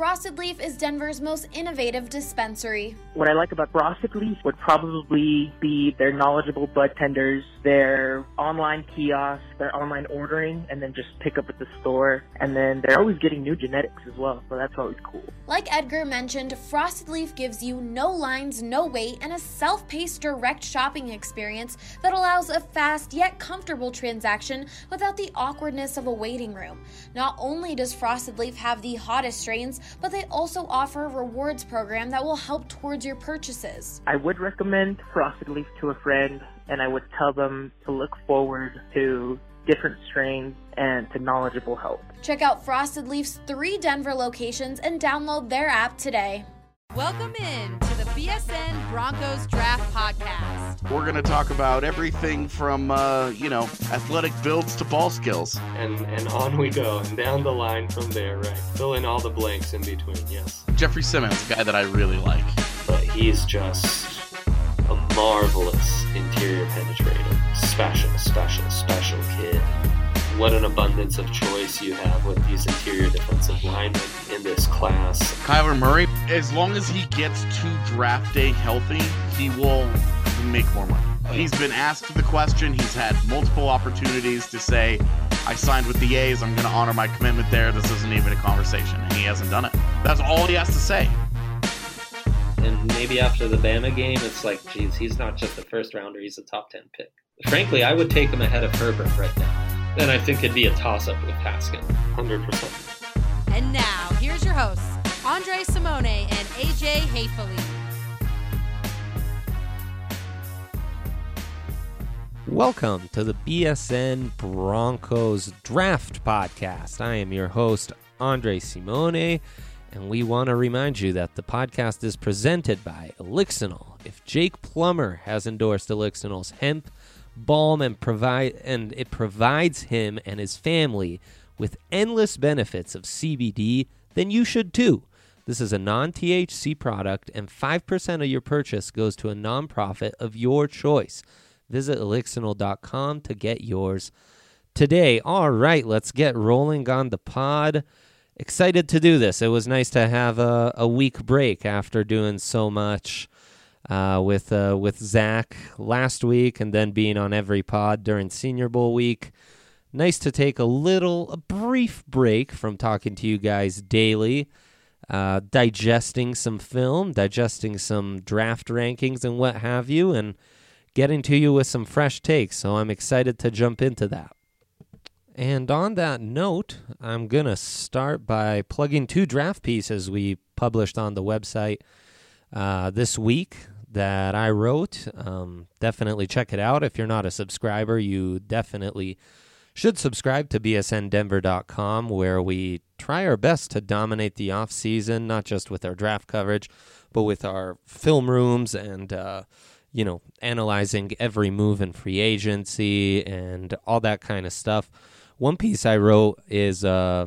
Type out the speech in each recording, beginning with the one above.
Frosted Leaf is Denver's most innovative dispensary. What I like about Frosted Leaf would probably be their knowledgeable bud tenders, their online kiosks, their online ordering, and then just pick up at the store. And then they're always getting new genetics as well, so that's always cool. Like Edgar mentioned, Frosted Leaf gives you no lines, no wait, and a self-paced direct shopping experience that allows a fast yet comfortable transaction without the awkwardness of a waiting room. Not only does Frosted Leaf have the hottest strains, but they also offer a rewards program that will help towards your purchases. I would recommend Frosted Leaf to a friend, and I would tell them to look forward to different strains and to knowledgeable help. Check out Frosted Leaf's 3 Denver locations and download their app today. Welcome in to the BSN Broncos Draft Podcast. We're going to talk about everything from, athletic builds to ball skills. And on we go, and down the line from there, right? Fill in all the blanks in between, yes. Jeffrey Simmons, a guy that I really like. But he's just a marvelous interior penetrator. Special kid. What an abundance of choice you have with these interior defensive linemen in this class. Kyler Murray, as long as he gets to draft day healthy, he will make more money. He's been asked the question. He's had multiple opportunities to say, I signed with the A's. I'm going to honor my commitment there. This isn't even a conversation. And he hasn't done it. That's all he has to say. And maybe after the Bama game, it's like, geez, he's not just a first rounder. He's a top 10 pick. Frankly, I would take him ahead of Herbert right now. And I think it'd be a toss-up with Haskins. 100%. And now, here's your hosts, Andre Simone and AJ Hayfully. Welcome to the BSN Broncos Draft Podcast. I am your host, Andre Simone, and we want to remind you that the podcast is presented by Elixinol. If Jake Plummer has endorsed Elixinol's hemp balm and it provides him and his family with endless benefits of CBD, then you should too. This is a non-THC product, and 5% of your purchase goes to a nonprofit of your choice. Visit elixinol.com to get yours today. All right, let's get rolling on the pod. Excited to do this. It was nice to have a week break after doing so much with Zach last week and then being on every pod during Senior Bowl week. Nice to take a brief break from talking to you guys daily, digesting some film, digesting some draft rankings and what have you, and getting to you with some fresh takes. So I'm excited to jump into that. And on that note, I'm going to start by plugging 2 draft pieces we published on the website this week that I wrote. Definitely check it out. If you're not a subscriber, you definitely should subscribe to bsndenver.com, where we try our best to dominate the offseason, not just with our draft coverage, but with our film rooms and, analyzing every move in free agency and all that kind of stuff. One piece I wrote is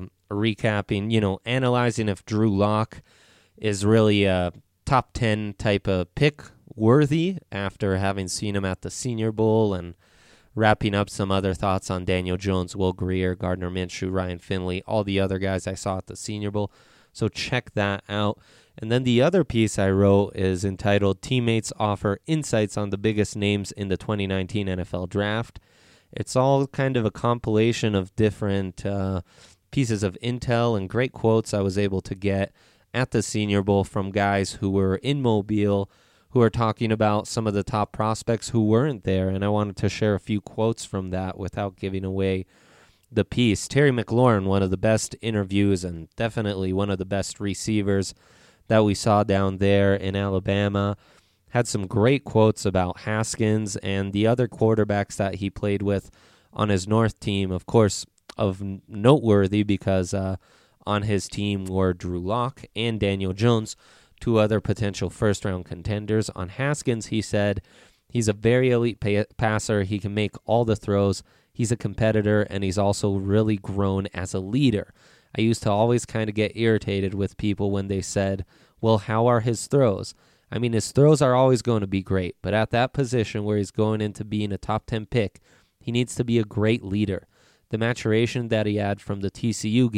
recapping, analyzing if Drew Lock is really a top 10 type of pick worthy after having seen him at the Senior Bowl, and wrapping up some other thoughts on Daniel Jones, Will Grier, Gardner Minshew, Ryan Finley, all the other guys I saw at the Senior Bowl. So check that out. And then the other piece I wrote is entitled Teammates Offer Insights on the Biggest Names in the 2019 NFL Draft. It's all kind of a compilation of different pieces of intel and great quotes I was able to get at the Senior Bowl from guys who were in Mobile, who are talking about some of the top prospects who weren't there. And I wanted to share a few quotes from that without giving away the piece. Terry McLaurin, one of the best interviews and definitely one of the best receivers that we saw down there in Alabama, had some great quotes about Haskins and the other quarterbacks that he played with on his North team. Of course, of noteworthy because on his team were Drew Lock and Daniel Jones, 2 other potential first-round contenders. On Haskins, he said, he's a very elite passer. He can make all the throws. He's a competitor, and he's also really grown as a leader. I used to always kind of get irritated with people when they said, well, how are his throws? I mean, his throws are always going to be great, but at that position where he's going into being a top 10 pick, he needs to be a great leader. The maturation that he had from the TCU game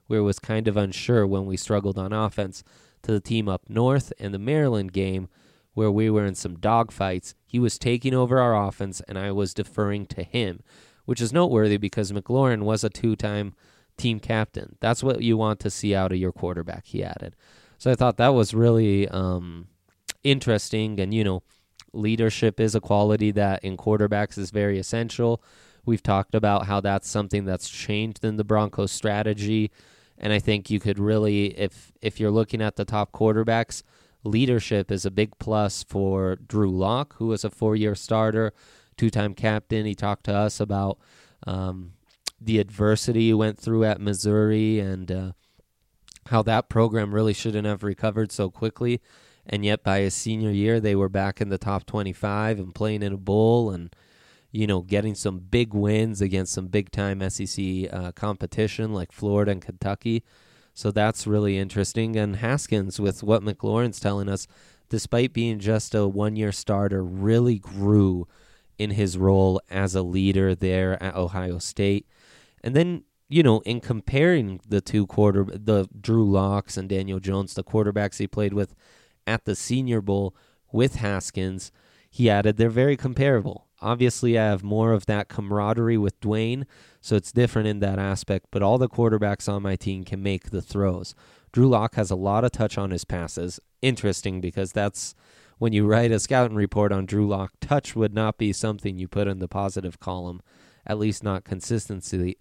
where it was kind of unsure when we struggled on offense, to the team up north and the Maryland game where we were in some dogfights. He was taking over our offense, and I was deferring to him, which is noteworthy because McLaurin was a 2-time team captain. That's what you want to see out of your quarterback, he added. So I thought that was really interesting, and, leadership is a quality that in quarterbacks is very essential. We've talked about how that's something that's changed in the Broncos strategy, and I think you could really, if you're looking at the top quarterbacks, leadership is a big plus for Drew Lock, who was a 4-year starter, 2-time captain. He talked to us about the adversity he went through at Missouri and how that program really shouldn't have recovered so quickly. And yet by his senior year, they were back in the top 25 and playing in a bowl and, getting some big wins against some big-time SEC competition like Florida and Kentucky. So that's really interesting. And Haskins, with what McLaurin's telling us, despite being just a 1-year starter, really grew in his role as a leader there at Ohio State. And then, in comparing the the Drew Locks and Daniel Jones, the quarterbacks he played with at the Senior Bowl with Haskins, he added they're very comparable. Obviously, I have more of that camaraderie with Dwayne, so it's different in that aspect, but all the quarterbacks on my team can make the throws. Drew Lock has a lot of touch on his passes. Interesting, because that's when you write a scouting report on Drew Lock, touch would not be something you put in the positive column, at least not consistently.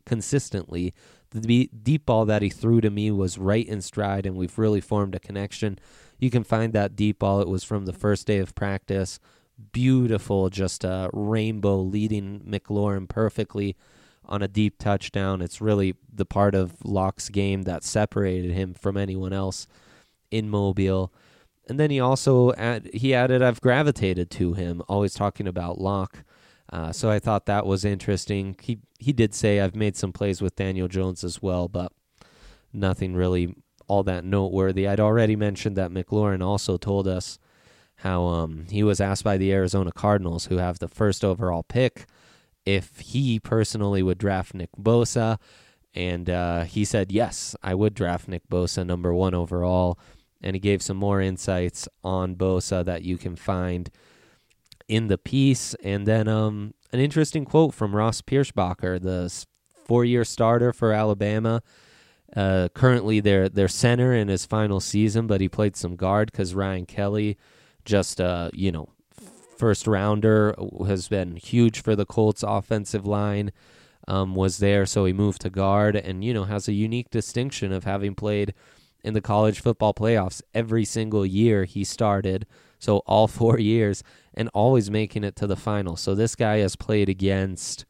The deep ball that he threw to me was right in stride, and we've really formed a connection. You can find that deep ball. It was from the first day of practice. Beautiful, just a rainbow leading McLaurin perfectly on a deep touchdown. It's really the part of Lock's game that separated him from anyone else in Mobile. And then he also added, I've gravitated to him, always talking about Lock. So I thought that was interesting. He did say I've made some plays with Daniel Jones as well, but nothing really all that noteworthy. I'd already mentioned that McLaurin also told us how he was asked by the Arizona Cardinals, who have the first overall pick, if he personally would draft Nick Bosa, and he said, yes, I would draft Nick Bosa number 1 overall, and he gave some more insights on Bosa that you can find in the piece. And then an interesting quote from Ross Pierschbacher, the 4-year starter for Alabama, currently their center in his final season, but he played some guard because Ryan Kelly, just first rounder, has been huge for the Colts offensive line, was there, so he moved to guard and, has a unique distinction of having played in the college football playoffs every single year he started, so all 4 years, and always making it to the final. So this guy has played against,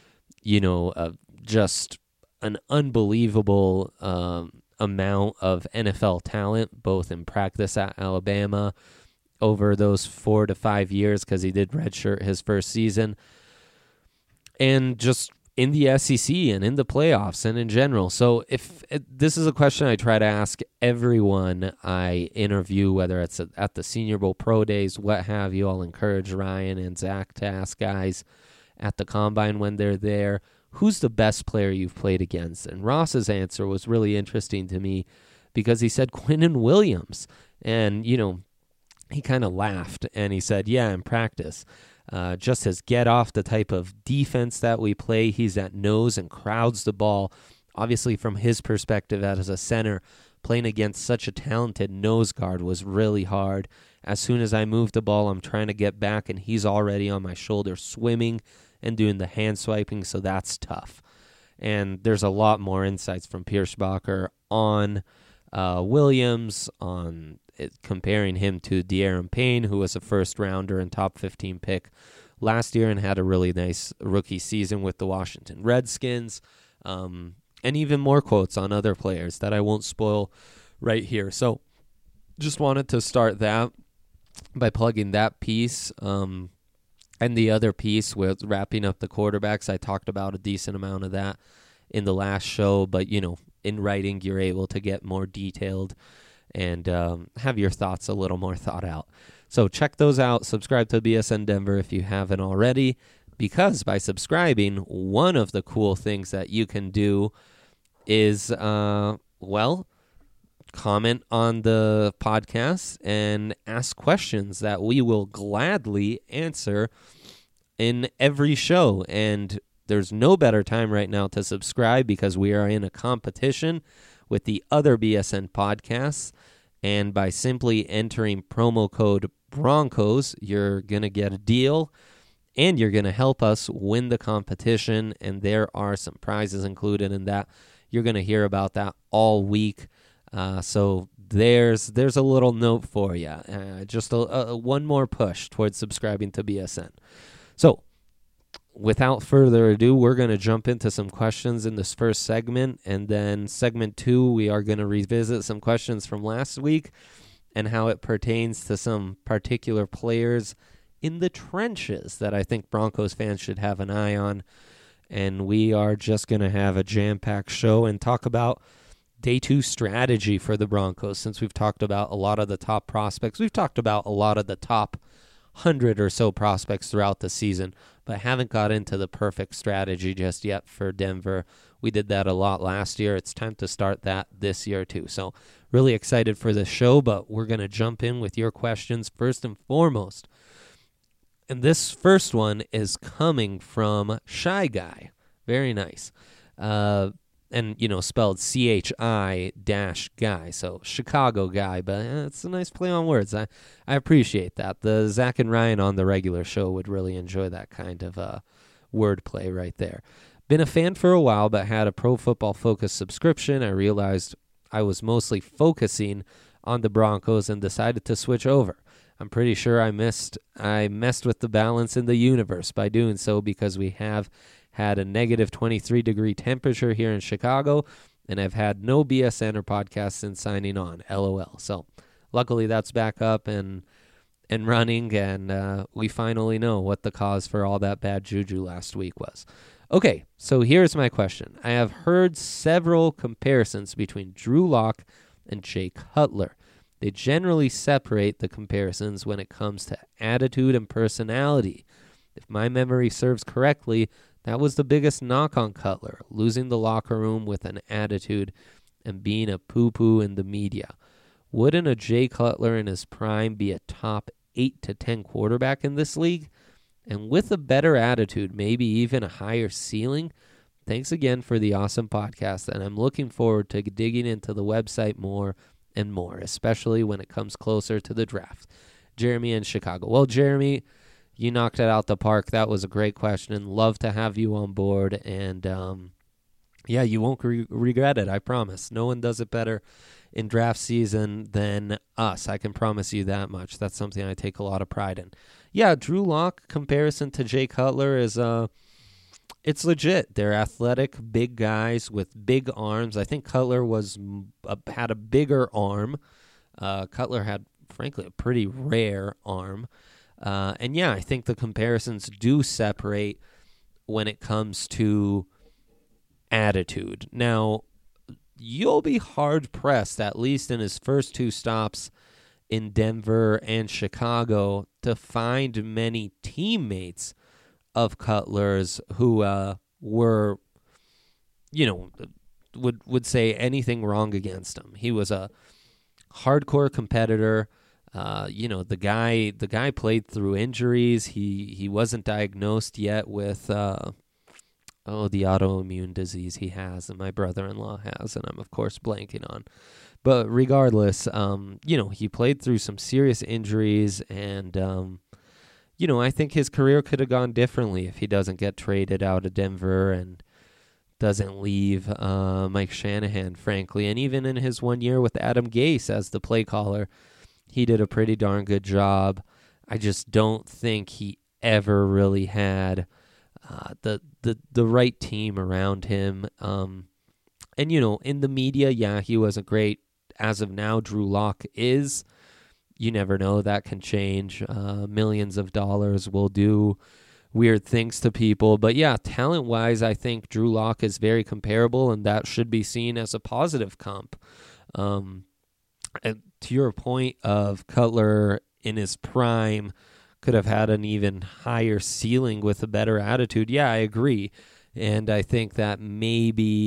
just an unbelievable amount of NFL talent, both in practice at Alabama over those 4 to 5 years, because he did redshirt his first season, and just in the SEC and in the playoffs and in general. So this is a question I try to ask everyone I interview, whether it's at the Senior Bowl, Pro Days, what have you. I'll encourage Ryan and Zach to ask guys at the Combine when they're there, who's the best player you've played against? And Ross's answer was really interesting to me because he said Quinnen Williams. And, he kind of laughed and he said, yeah, in practice. Just his get off, the type of defense that we play, he's at nose and crowds the ball. Obviously, from his perspective as a center, playing against such a talented nose guard was really hard. As soon as I move the ball, I'm trying to get back, and he's already on my shoulder swimming and doing the hand swiping, so that's tough. And there's a lot more insights from Pierschbacher on Williams, on comparing him to De'Aaron Payne, who was a first-rounder and top 15 pick last year and had a really nice rookie season with the Washington Redskins, and even more quotes on other players that I won't spoil right here. So just wanted to start that by plugging that piece, and the other piece with wrapping up the quarterbacks. I talked about a decent amount of that in the last show, but, in writing, you're able to get more detailed and have your thoughts a little more thought out. So check those out. Subscribe to BSN Denver if you haven't already, because by subscribing, one of the cool things that you can do is well, comment on the podcast and ask questions that we will gladly answer in every show. And there's no better time right now to subscribe because we are in a competition with the other BSN podcasts. And by simply entering promo code Broncos, you're going to get a deal and you're going to help us win the competition. And there are some prizes included in that. You're going to hear about that all week. So there's a little note for you. Just one more push towards subscribing to BSN. So without further ado, we're going to jump into some questions in this first segment. And then segment 2, we are going to revisit some questions from last week and how it pertains to some particular players in the trenches that I think Broncos fans should have an eye on. And we are just going to have a jam-packed show and talk about Day 2 strategy for the Broncos, since we've talked about a lot of the top prospects. We've talked about a lot of the top 100 or so prospects throughout the season, but haven't got into the perfect strategy just yet for Denver. We did that a lot last year. It's time to start that this year too. So really excited for this show, but we're going to jump in with your questions first and foremost. And this first one is coming from Shy Guy. Very nice. And, spelled CHI-guy, so Chicago guy, but it's a nice play on words. I appreciate that. The Zach and Ryan on the regular show would really enjoy that kind of wordplay right there. Been a fan for a while, but had a Pro Football Focus subscription. I realized I was mostly focusing on the Broncos and decided to switch over. I'm pretty sure I messed with the balance in the universe by doing so, because we have had a negative 23-degree temperature here in Chicago, and I've had no BSN or podcast since signing on. LOL. So luckily that's back up and running, and we finally know what the cause for all that bad juju last week was. Okay, so here's my question. I have heard several comparisons between Drew Lock and Jay Cutler. They generally separate the comparisons when it comes to attitude and personality. If my memory serves correctly, that was the biggest knock on Cutler, losing the locker room with an attitude and being a poo-poo in the media. Wouldn't a Jay Cutler in his prime be a top 8 to 10 quarterback in this league? And with a better attitude, maybe even a higher ceiling? Thanks again for the awesome podcast, and I'm looking forward to digging into the website more and more, especially when it comes closer to the draft. Jeremy in Chicago. Well, Jeremy, you knocked it out the park. That was a great question. Love to have you on board. And, you won't regret it, I promise. No one does it better in draft season than us. I can promise you that much. That's something I take a lot of pride in. Yeah, Drew Lock comparison to Jay Cutler is it's legit. They're athletic, big guys with big arms. I think Cutler had a bigger arm. Cutler had, frankly, a pretty rare arm. I think the comparisons do separate when it comes to attitude. Now, you'll be hard-pressed, at least in his first 2 stops in Denver and Chicago, to find many teammates of Cutler's who were, would say anything wrong against him. He was a hardcore competitor. The guy played through injuries. He wasn't diagnosed yet with the autoimmune disease he has and my brother-in-law has, and I'm of course blanking on. But regardless, he played through some serious injuries, and I think his career could have gone differently if he doesn't get traded out of Denver and doesn't leave Mike Shanahan, frankly. And even in his 1 year with Adam Gase as the play caller, he did a pretty darn good job. I just don't think he ever really had the right team around him. In the media, he wasn't great. As of now, Drew Lock is. You never know. That can change. Millions of dollars will do weird things to people. But talent-wise, I think Drew Lock is very comparable, and that should be seen as a positive comp. And to your point of Cutler in his prime could have had an even higher ceiling with a better attitude, I agree. And I think that maybe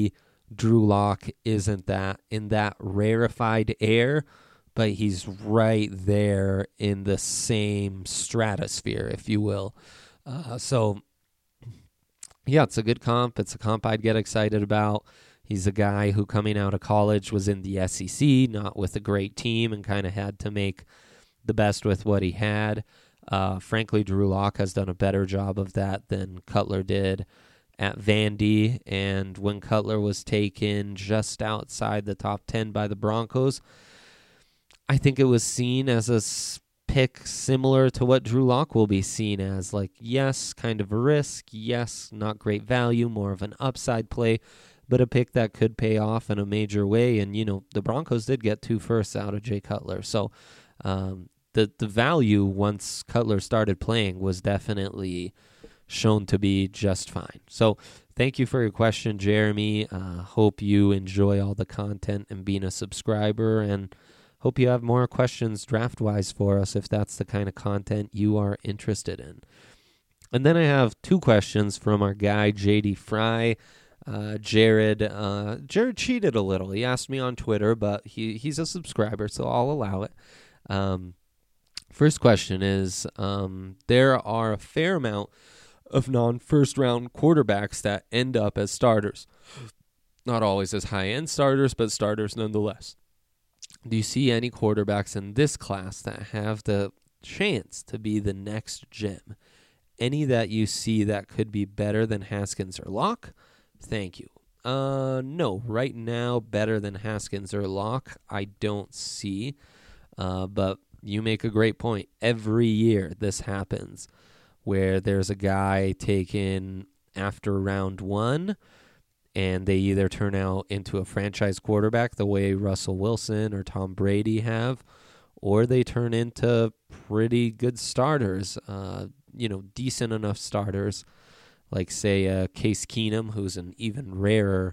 Drew Lock isn't that in that rarefied air, but he's right there in the same stratosphere, if you will. So, yeah, it's a good comp. It's a comp I'd get excited about. He's a guy who, coming out of college, was in the SEC, not with a great team, and kind of had to make the best with what he had. Frankly, Drew Lock has done a better job of that than Cutler did at Vandy. And when Cutler was taken just outside the top 10 by the Broncos, I think it was seen as a pick similar to what Drew Lock will be seen as. Like, yes, kind of a risk. Yes, not great value, more of an upside play, but a pick that could pay off in a major way. And, the Broncos did get 2 firsts out of Jay Cutler. So the value once Cutler started playing was definitely shown to be just fine. So thank you for your question, Jeremy. Hope you enjoy all the content and being a subscriber, and hope you have more questions draft-wise for us if that's the kind of content you are interested in. And then I have 2 questions from our guy, JD Fry. Jared cheated a little. He asked me on Twitter, but he's a subscriber, so I'll allow it. First question is, there are a fair amount of non-first-round quarterbacks that end up as starters. Not always as high-end starters, but starters nonetheless. Do you see any quarterbacks in this class that have the chance to be the next gem? Any that you see that could be better than Haskins or Locke? Thank you. No, right now, better than Haskins or Locke, I don't see. But you make a great point. Every year this happens where there's a guy taken after round 1, and they either turn out into a franchise quarterback the way Russell Wilson or Tom Brady have, or they turn into pretty good starters, decent enough starters, like, say, Case Keenum, who's an even rarer,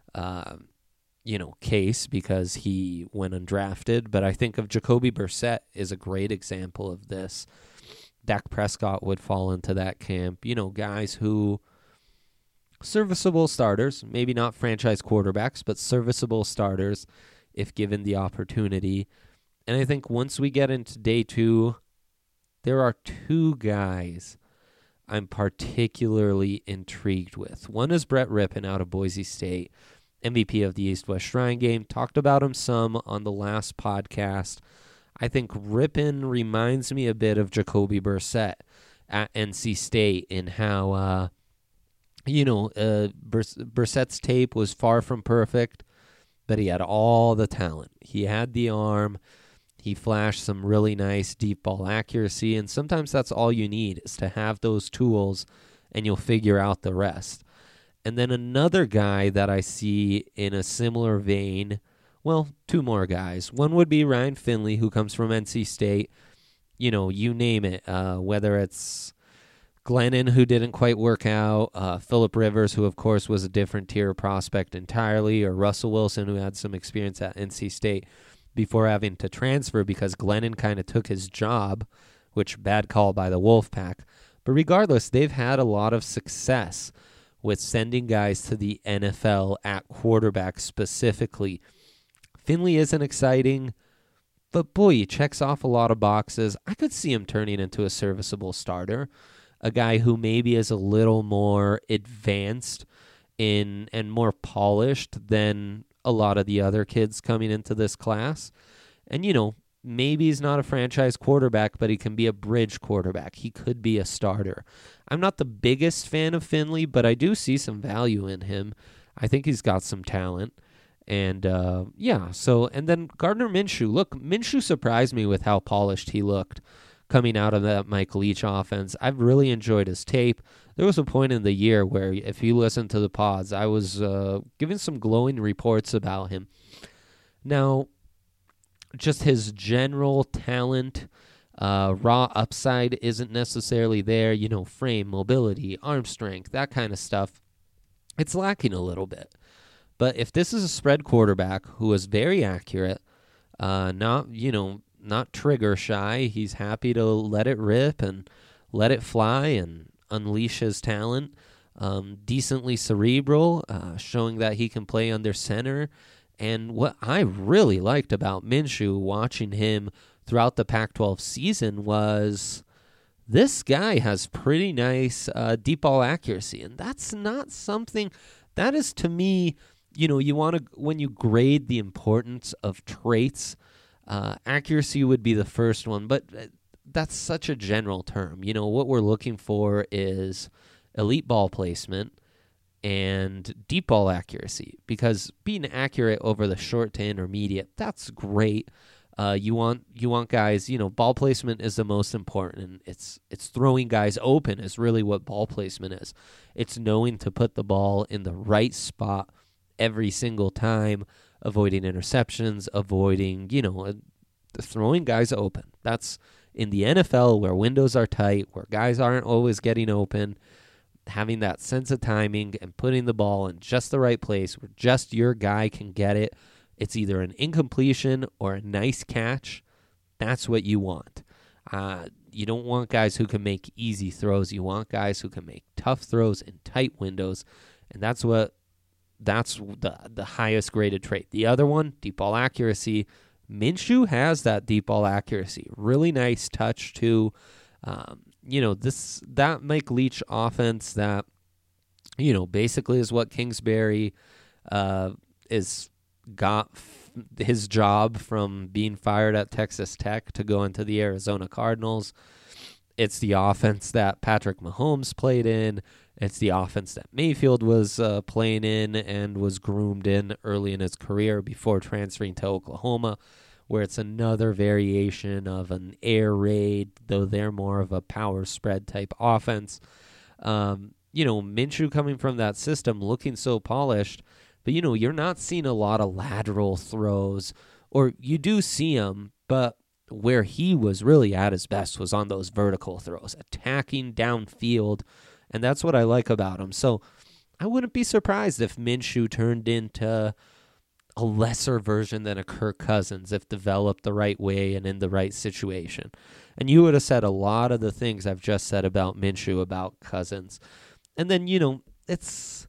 case because he went undrafted. But I think of Jacoby Brissett is a great example of this. Dak Prescott would fall into that camp. Guys who... serviceable starters, maybe not franchise quarterbacks, but serviceable starters if given the opportunity. And I think once we get into day 2, there are 2 guys I'm particularly intrigued with. One is Brett Rippon out of Boise State, MVP of the East-West Shrine Game. Talked about him some on the last podcast. I think Rippon reminds me a bit of Jacoby Brissett at NC State in how... Brissett's tape was far from perfect, but he had all the talent. He had the arm. He flashed some really nice deep ball accuracy, and sometimes that's all you need is to have those tools, and you'll figure out the rest. And then another guy that I see in a similar vein, well, 2 more guys. One would be Ryan Finley, who comes from NC State. You name it, whether it's Glennon, who didn't quite work out, Phillip Rivers, who, of course, was a different tier prospect entirely, or Russell Wilson, who had some experience at NC State before having to transfer because Glennon kind of took his job, which bad call by the Wolfpack. But regardless, they've had a lot of success with sending guys to the NFL at quarterback specifically. Finley isn't exciting, but boy, he checks off a lot of boxes. I could see him turning into a serviceable starter. A guy who maybe is a little more advanced and more polished than a lot of the other kids coming into this class. And, maybe he's not a franchise quarterback, but he can be a bridge quarterback. He could be a starter. I'm not the biggest fan of Finley, but I do see some value in him. I think he's got some talent. And, and then Gardner Minshew. Look, Minshew surprised me with how polished he looked coming out of that Mike Leach offense. I've really enjoyed his tape. There was a point in the year where, if you listen to the pods, I was giving some glowing reports about him. Now, just his general talent, raw upside isn't necessarily there. Frame, mobility, arm strength, that kind of stuff. It's lacking a little bit. But if this is a spread quarterback who is very accurate, not trigger shy. He's happy to let it rip and let it fly and unleash his talent. decently cerebral, showing that he can play under center. And what I really liked about Minshew watching him throughout the Pac-12 season was this guy has pretty nice deep ball accuracy. And that's not something that is, to me, you want to, when you grade the importance of traits, accuracy would be the first one, but that's such a general term. What we're looking for is elite ball placement and deep ball accuracy, because being accurate over the short to intermediate, that's great. You want guys, ball placement is the most important, and it's throwing guys open is really what ball placement is. It's knowing to put the ball in the right spot every single time, avoiding interceptions, avoiding, throwing guys open. That's in the NFL, where windows are tight, where guys aren't always getting open. Having that sense of timing and putting the ball in just the right place where just your guy can get it. It's either an incompletion or a nice catch. That's what you want. You don't want guys who can make easy throws. You want guys who can make tough throws in tight windows, and that's the highest graded trait. The other one, deep ball accuracy. Minshew has that deep ball accuracy. Really nice touch too. That Mike Leach offense that, basically is what Kingsbury got his job from being fired at Texas Tech to go into the Arizona Cardinals. It's the offense that Patrick Mahomes played in. It's the offense that Mayfield was playing in and was groomed in early in his career before transferring to Oklahoma, where it's another variation of an air raid, though they're more of a power spread type offense. Minshew coming from that system looking so polished, but, you're not seeing a lot of lateral throws, or you do see them, but where he was really at his best was on those vertical throws, attacking downfield, and that's what I like about him. So I wouldn't be surprised if Minshew turned into a lesser version than a Kirk Cousins if developed the right way and in the right situation. And you would have said a lot of the things I've just said about Minshew about Cousins. And then, it's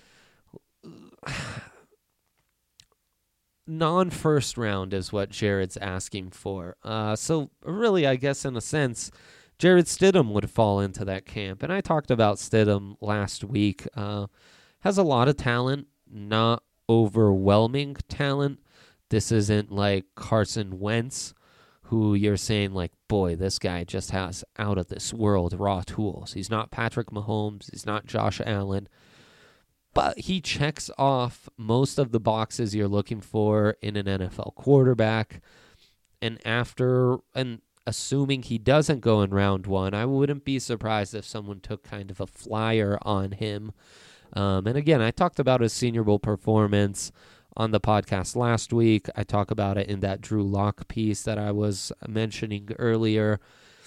non-first round is what Jared's asking for. So really, I guess in a sense, Jared Stidham would fall into that camp. And I talked about Stidham last week. Has a lot of talent, not overwhelming talent. This isn't like Carson Wentz, who you're saying like, boy, this guy just has out of this world raw tools. He's not Patrick Mahomes. He's not Josh Allen. But he checks off most of the boxes you're looking for in an NFL quarterback. And assuming he doesn't go in round one, I wouldn't be surprised if someone took kind of a flyer on him. And again, I talked about his Senior Bowl performance on the podcast last week. I talk about it in that Drew Lock piece that I was mentioning earlier.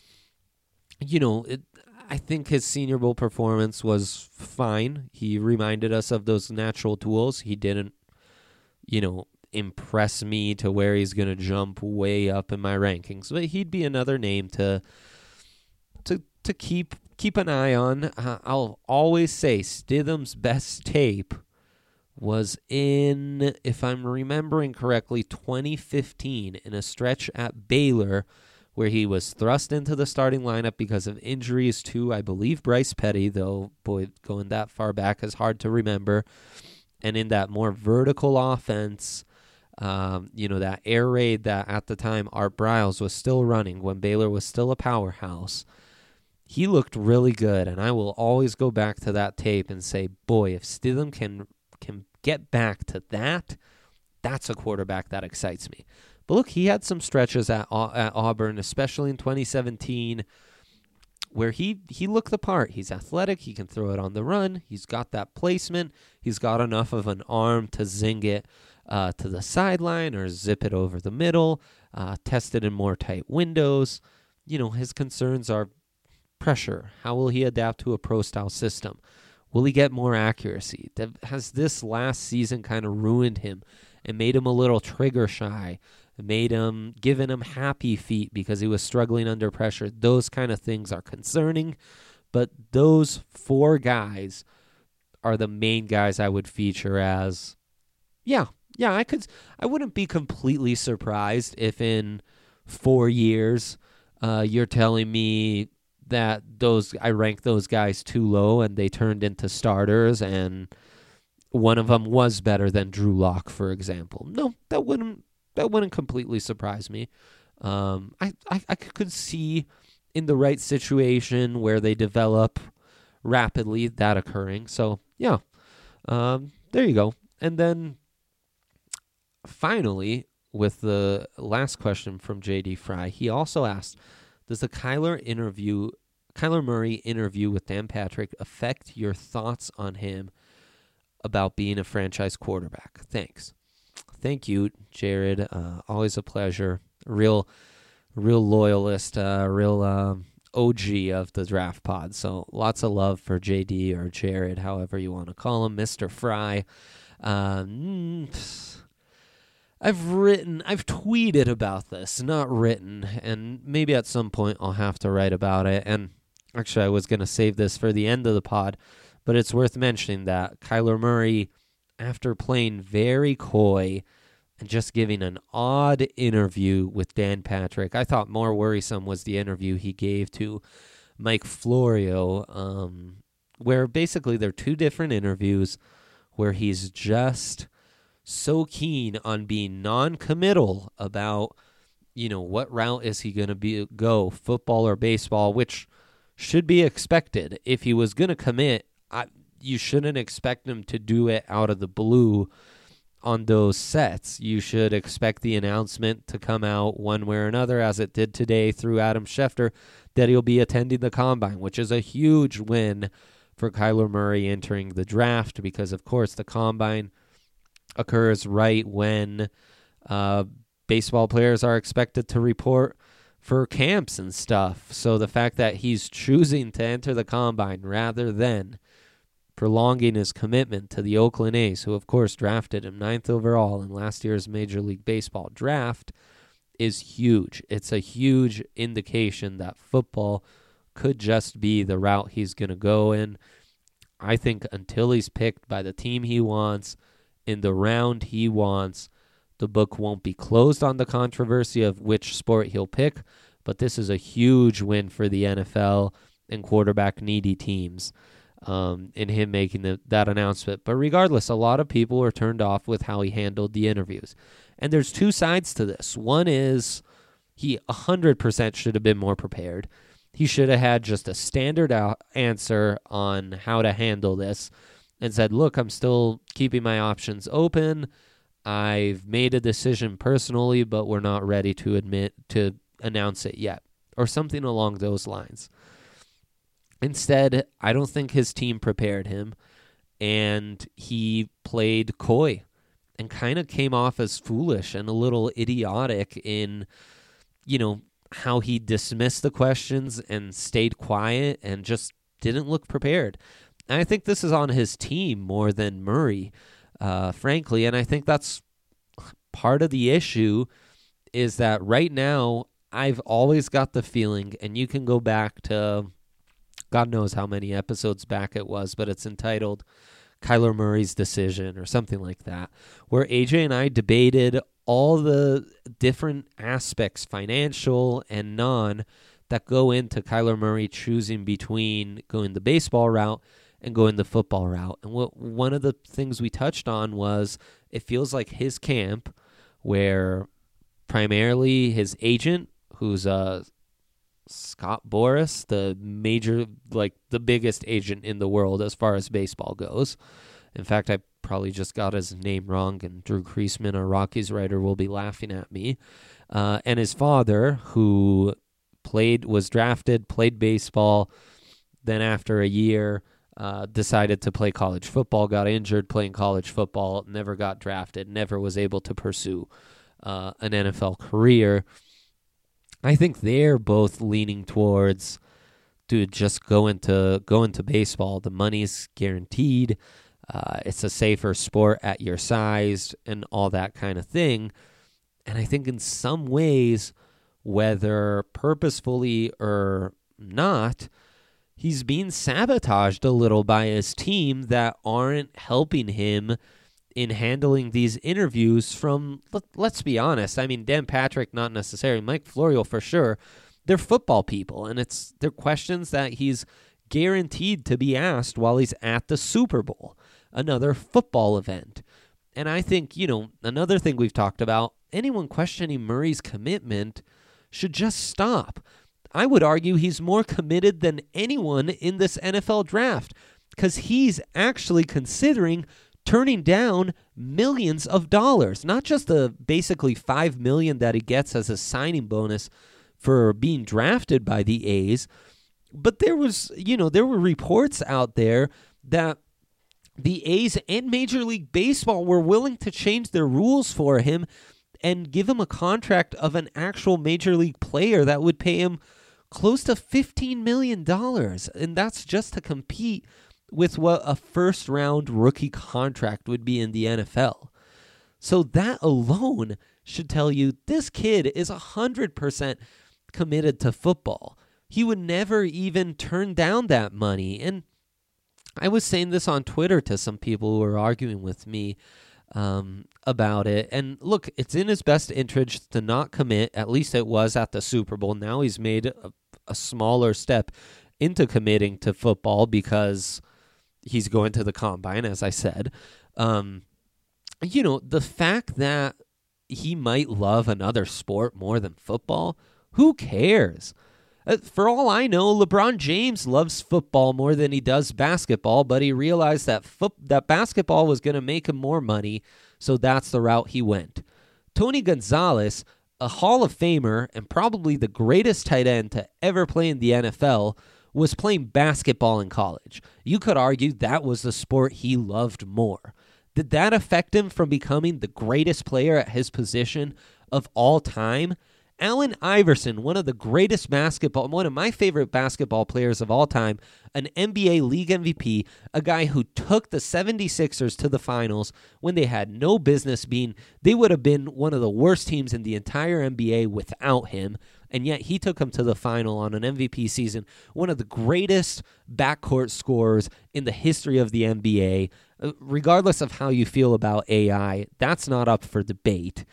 I think his Senior Bowl performance was fine. He reminded us of those natural tools. He didn't, impress me to where he's going to jump way up in my rankings. But he'd be another name to keep an eye on. I'll always say Stidham's best tape was in, if I'm remembering correctly, 2015 in a stretch at Baylor where he was thrust into the starting lineup because of injuries to, I believe, Bryce Petty, though, boy, going that far back is hard to remember. And in that more vertical offense, that air raid that at the time Art Briles was still running when Baylor was still a powerhouse, he looked really good. And I will always go back to that tape and say, boy, if Stidham can get back to that, that's a quarterback that excites me. But look, he had some stretches at Auburn, especially in 2017, where he looked the part. He's athletic. He can throw it on the run. He's got that placement. He's got enough of an arm to zing it to the sideline or zip it over the middle, test it in more tight windows. His concerns are pressure. How will he adapt to a pro-style system? Will he get more accuracy? Has this last season kind of ruined him and made him a little trigger shy? Given him happy feet because he was struggling under pressure? Those kind of things are concerning. But those four guys are the main guys I would feature as, yeah, I wouldn't be completely surprised if in 4 years you're telling me that I ranked those guys too low and they turned into starters and one of them was better than Drew Lock, for example. No, that wouldn't completely surprise me. I could see in the right situation where they develop rapidly that occurring. So yeah, there you go. And then finally, with the last question from JD Fry, he also asked, does the Kyler Murray interview with Dan Patrick affect your thoughts on him about being a franchise quarterback? Thanks. Thank you, Jared. Always a pleasure. Real loyalist, real OG of the Draft Pod. So lots of love for JD or Jared, however you want to call him, Mr. Fry. I've tweeted about this, not written, and maybe at some point I'll have to write about it. And actually, I was going to save this for the end of the pod, but it's worth mentioning that Kyler Murray, after playing very coy and just giving an odd interview with Dan Patrick, I thought more worrisome was the interview he gave to Mike Florio, where basically they're two different interviews where he's just so keen on being non-committal about, what route is he going to go, football or baseball, which should be expected. If he was going to commit, you shouldn't expect him to do it out of the blue on those sets. You should expect the announcement to come out one way or another, as it did today through Adam Schefter, that he'll be attending the Combine, which is a huge win for Kyler Murray entering the draft because, of course, the Combine occurs right when baseball players are expected to report for camps and stuff. So the fact that he's choosing to enter the Combine rather than prolonging his commitment to the Oakland A's, who of course drafted him 9th overall in last year's Major League Baseball draft, is huge. It's a huge indication that football could just be the route he's going to go in. I think until he's picked by the team he wants, in the round he wants, the book won't be closed on the controversy of which sport he'll pick, but this is a huge win for the NFL and quarterback-needy teams in him making that announcement. But regardless, a lot of people were turned off with how he handled the interviews. And there's two sides to this. One is he 100% should have been more prepared. He should have had just a standard answer on how to handle this and said, look, I'm still keeping my options open. I've made a decision personally, but we're not ready to announce it yet, or something along those lines. Instead, I don't think his team prepared him, and he played coy and kind of came off as foolish and a little idiotic in, how he dismissed the questions and stayed quiet and just didn't look prepared. And I think this is on his team more than Murray, frankly. And I think that's part of the issue is that right now I've always got the feeling, and you can go back to God knows how many episodes back it was, but it's entitled Kyler Murray's Decision or something like that, where AJ and I debated all the different aspects, financial and non, that go into Kyler Murray choosing between going the baseball route and going the football route. And one of the things we touched on was it feels like his camp, where primarily his agent, who's Scott Boras, the biggest agent in the world as far as baseball goes. In fact, I probably just got his name wrong, and Drew Creasman, a Rockies writer, will be laughing at me. And his father, who was drafted, played baseball, then after a year decided to play college football, got injured playing college football, never got drafted, never was able to pursue an NFL career. I think they're both leaning towards, dude, just go into baseball. The money's guaranteed. It's a safer sport at your size and all that kind of thing. And I think in some ways, whether purposefully or not, he's being sabotaged a little by his team that aren't helping him in handling these interviews from, let's be honest, I mean, Dan Patrick, not necessarily, Mike Florio for sure, they're football people, and they're questions that he's guaranteed to be asked while he's at the Super Bowl, another football event. And I think, another thing we've talked about, anyone questioning Murray's commitment should just stop. I would argue he's more committed than anyone in this NFL draft because he's actually considering turning down millions of dollars, not just the basically $5 million that he gets as a signing bonus for being drafted by the A's. But there were reports out there that the A's and Major League Baseball were willing to change their rules for him and give him a contract of an actual Major League player that would pay him close to $15 million. And that's just to compete with what a first-round rookie contract would be in the NFL. So that alone should tell you this kid is 100% committed to football. He would never even turn down that money. And I was saying this on Twitter to some people who were arguing with me about it. And look, it's in his best interest to not commit. At least it was at the Super Bowl. Now he's made a smaller step into committing to football because he's going to the combine, as I said. The fact that he might love another sport more than football, who cares? For all I know, LeBron James loves football more than he does basketball, but he realized that that basketball was going to make him more money, so that's the route he went. Tony Gonzalez, a Hall of Famer and probably the greatest tight end to ever play in the NFL, was playing basketball in college. You could argue that was the sport he loved more. Did that affect him from becoming the greatest player at his position of all time? Allen Iverson, one of my favorite basketball players of all time, an NBA league MVP, a guy who took the 76ers to the finals when they had no business being. They would have been one of the worst teams in the entire NBA without him, and yet he took them to the final on an MVP season, one of the greatest backcourt scorers in the history of the NBA. Regardless of how you feel about AI, that's not up for debate.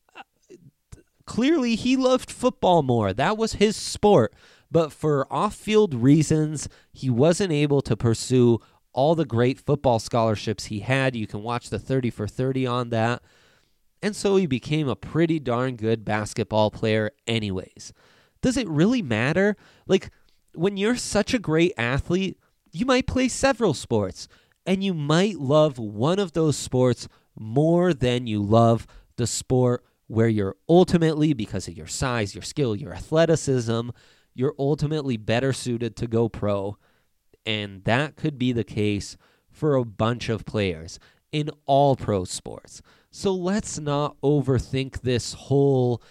Clearly, he loved football more. That was his sport. But for off-field reasons, he wasn't able to pursue all the great football scholarships he had. You can watch the 30 for 30 on that. And so he became a pretty darn good basketball player anyways. Does it really matter? Like, when you're such a great athlete, you might play several sports. And you might love one of those sports more than you love the sport where you're ultimately, because of your size, your skill, your athleticism, you're ultimately better suited to go pro. And that could be the case for a bunch of players in all pro sports. So let's not overthink this whole,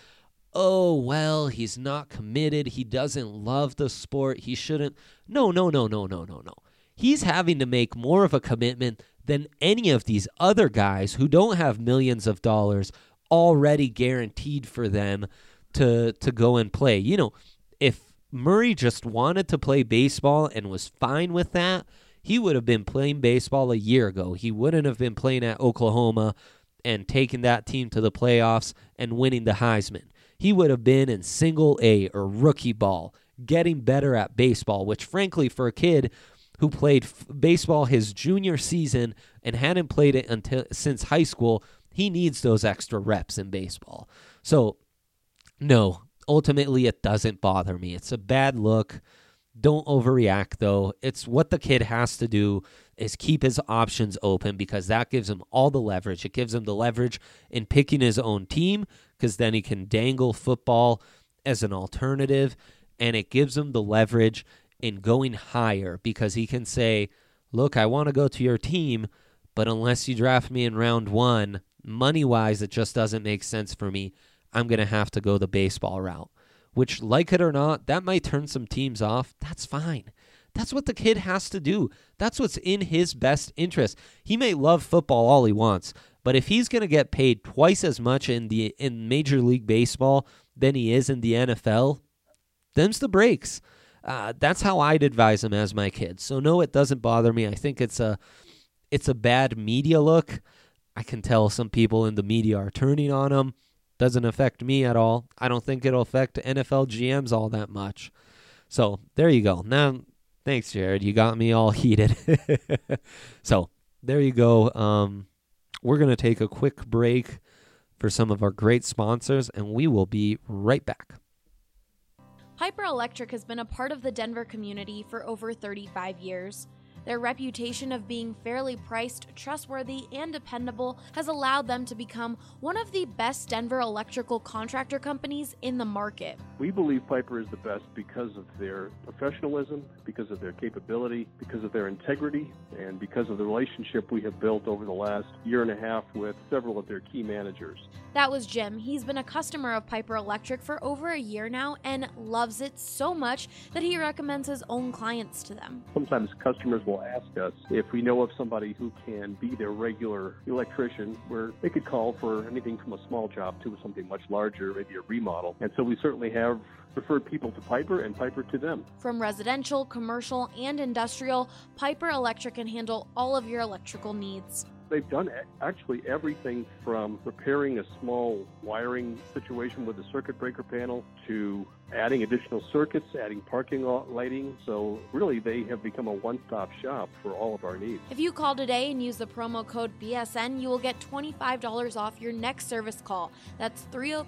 he's not committed, he doesn't love the sport, he shouldn't. No. He's having to make more of a commitment than any of these other guys who don't have millions of dollars already guaranteed for them to go and play. If Murray just wanted to play baseball and was fine with that, he would have been playing baseball a year ago. He wouldn't have been playing at Oklahoma and taking that team to the playoffs and winning the Heisman. He would have been in single A or rookie ball, getting better at baseball, which frankly for a kid who played baseball his junior season and hadn't played it since high school, he needs those extra reps in baseball. So, no, ultimately it doesn't bother me. It's a bad look. Don't overreact, though. It's what the kid has to do is keep his options open because that gives him all the leverage. It gives him the leverage in picking his own team because then he can dangle football as an alternative, and it gives him the leverage in going higher because he can say, look, I want to go to your team, but unless you draft me in round 1, money-wise, it just doesn't make sense for me. I'm going to have to go the baseball route, which, like it or not, that might turn some teams off. That's fine. That's what the kid has to do. That's what's in his best interest. He may love football all he wants, but if he's going to get paid twice as much in Major League Baseball than he is in the NFL, them's the breaks. That's how I'd advise him as my kid. So no, it doesn't bother me. I think it's a bad media look. I can tell some people in the media are turning on him. Doesn't affect me at all. I don't think it'll affect NFL GMs all that much. So there you go. Now, thanks, Jared. You got me all heated. So there you go. We're going to take a quick break for some of our great sponsors, and we will be right back. Piper Electric has been a part of the Denver community for over 35 years. Their reputation of being fairly priced, trustworthy, and dependable has allowed them to become one of the best Denver electrical contractor companies in the market. We believe Piper is the best because of their professionalism, because of their capability, because of their integrity, and because of the relationship we have built over the last year and a half with several of their key managers. That was Jim. He's been a customer of Piper Electric for over a year now and loves it so much that he recommends his own clients to them. Sometimes customers will ask us if we know of somebody who can be their regular electrician, where they could call for anything from a small job to something much larger, maybe a remodel. And so we certainly have referred people to Piper and Piper to them. From residential, commercial, and industrial, Piper Electric can handle all of your electrical needs. They've done actually everything from repairing a small wiring situation with a circuit breaker panel to adding additional circuits, adding parking lot lighting. So really, they have become a one-stop shop for all of our needs. If you call today and use the promo code BSN, you will get $25 off your next service call. That's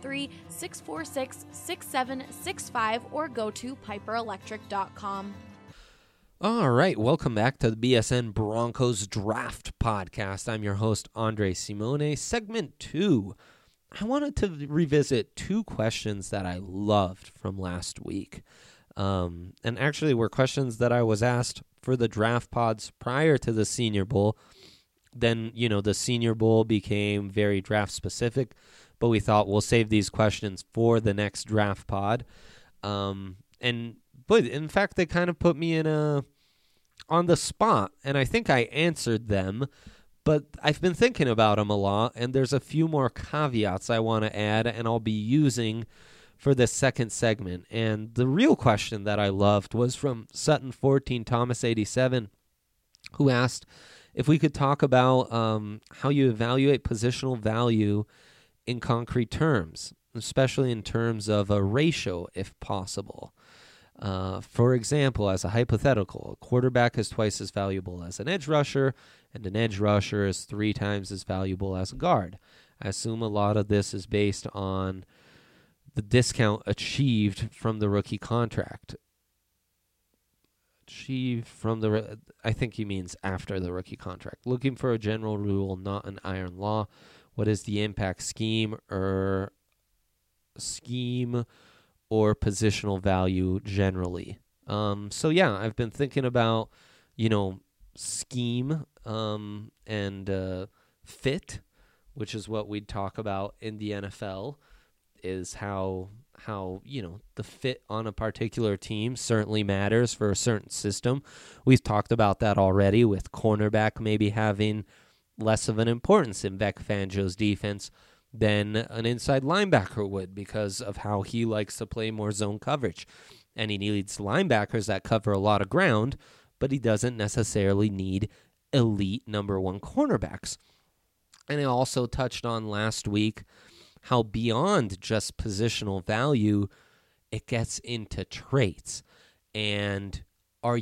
303-646-6765 or go to piperelectric.com. All right, welcome back to the BSN Broncos Draft Podcast. I'm your host, Andre Simone. Segment 2, I wanted to revisit 2 questions that I loved from last week. And actually were questions that I was asked for the draft pods prior to the Senior Bowl. Then, the Senior Bowl became very draft specific, but we thought we'll save these questions for the next draft pod. But in fact, they kind of put me on the spot, and I think I answered them, but I've been thinking about them a lot, and there's a few more caveats I want to add, and I'll be using for this second segment. And the real question that I loved was from Sutton14 Thomas 87, who asked if we could talk about how you evaluate positional value in concrete terms, especially in terms of a ratio, if possible. For example, as a hypothetical, a quarterback is twice as valuable as an edge rusher, and an edge rusher is 3 times as valuable as a guard. I assume a lot of this is based on the discount achieved from the rookie contract. I think he means after the rookie contract. Looking for a general rule, not an iron law. What is the impact scheme or positional value generally? So yeah, I've been thinking about, scheme and fit, which is what we'd talk about in the NFL, is how the fit on a particular team certainly matters for a certain system. We've talked about that already, with cornerback maybe having less of an importance in Vic Fangio's defense than an inside linebacker would, because of how he likes to play more zone coverage. And he needs linebackers that cover a lot of ground, but he doesn't necessarily need elite number 1 cornerbacks. And I also touched on last week how beyond just positional value, it gets into traits. And do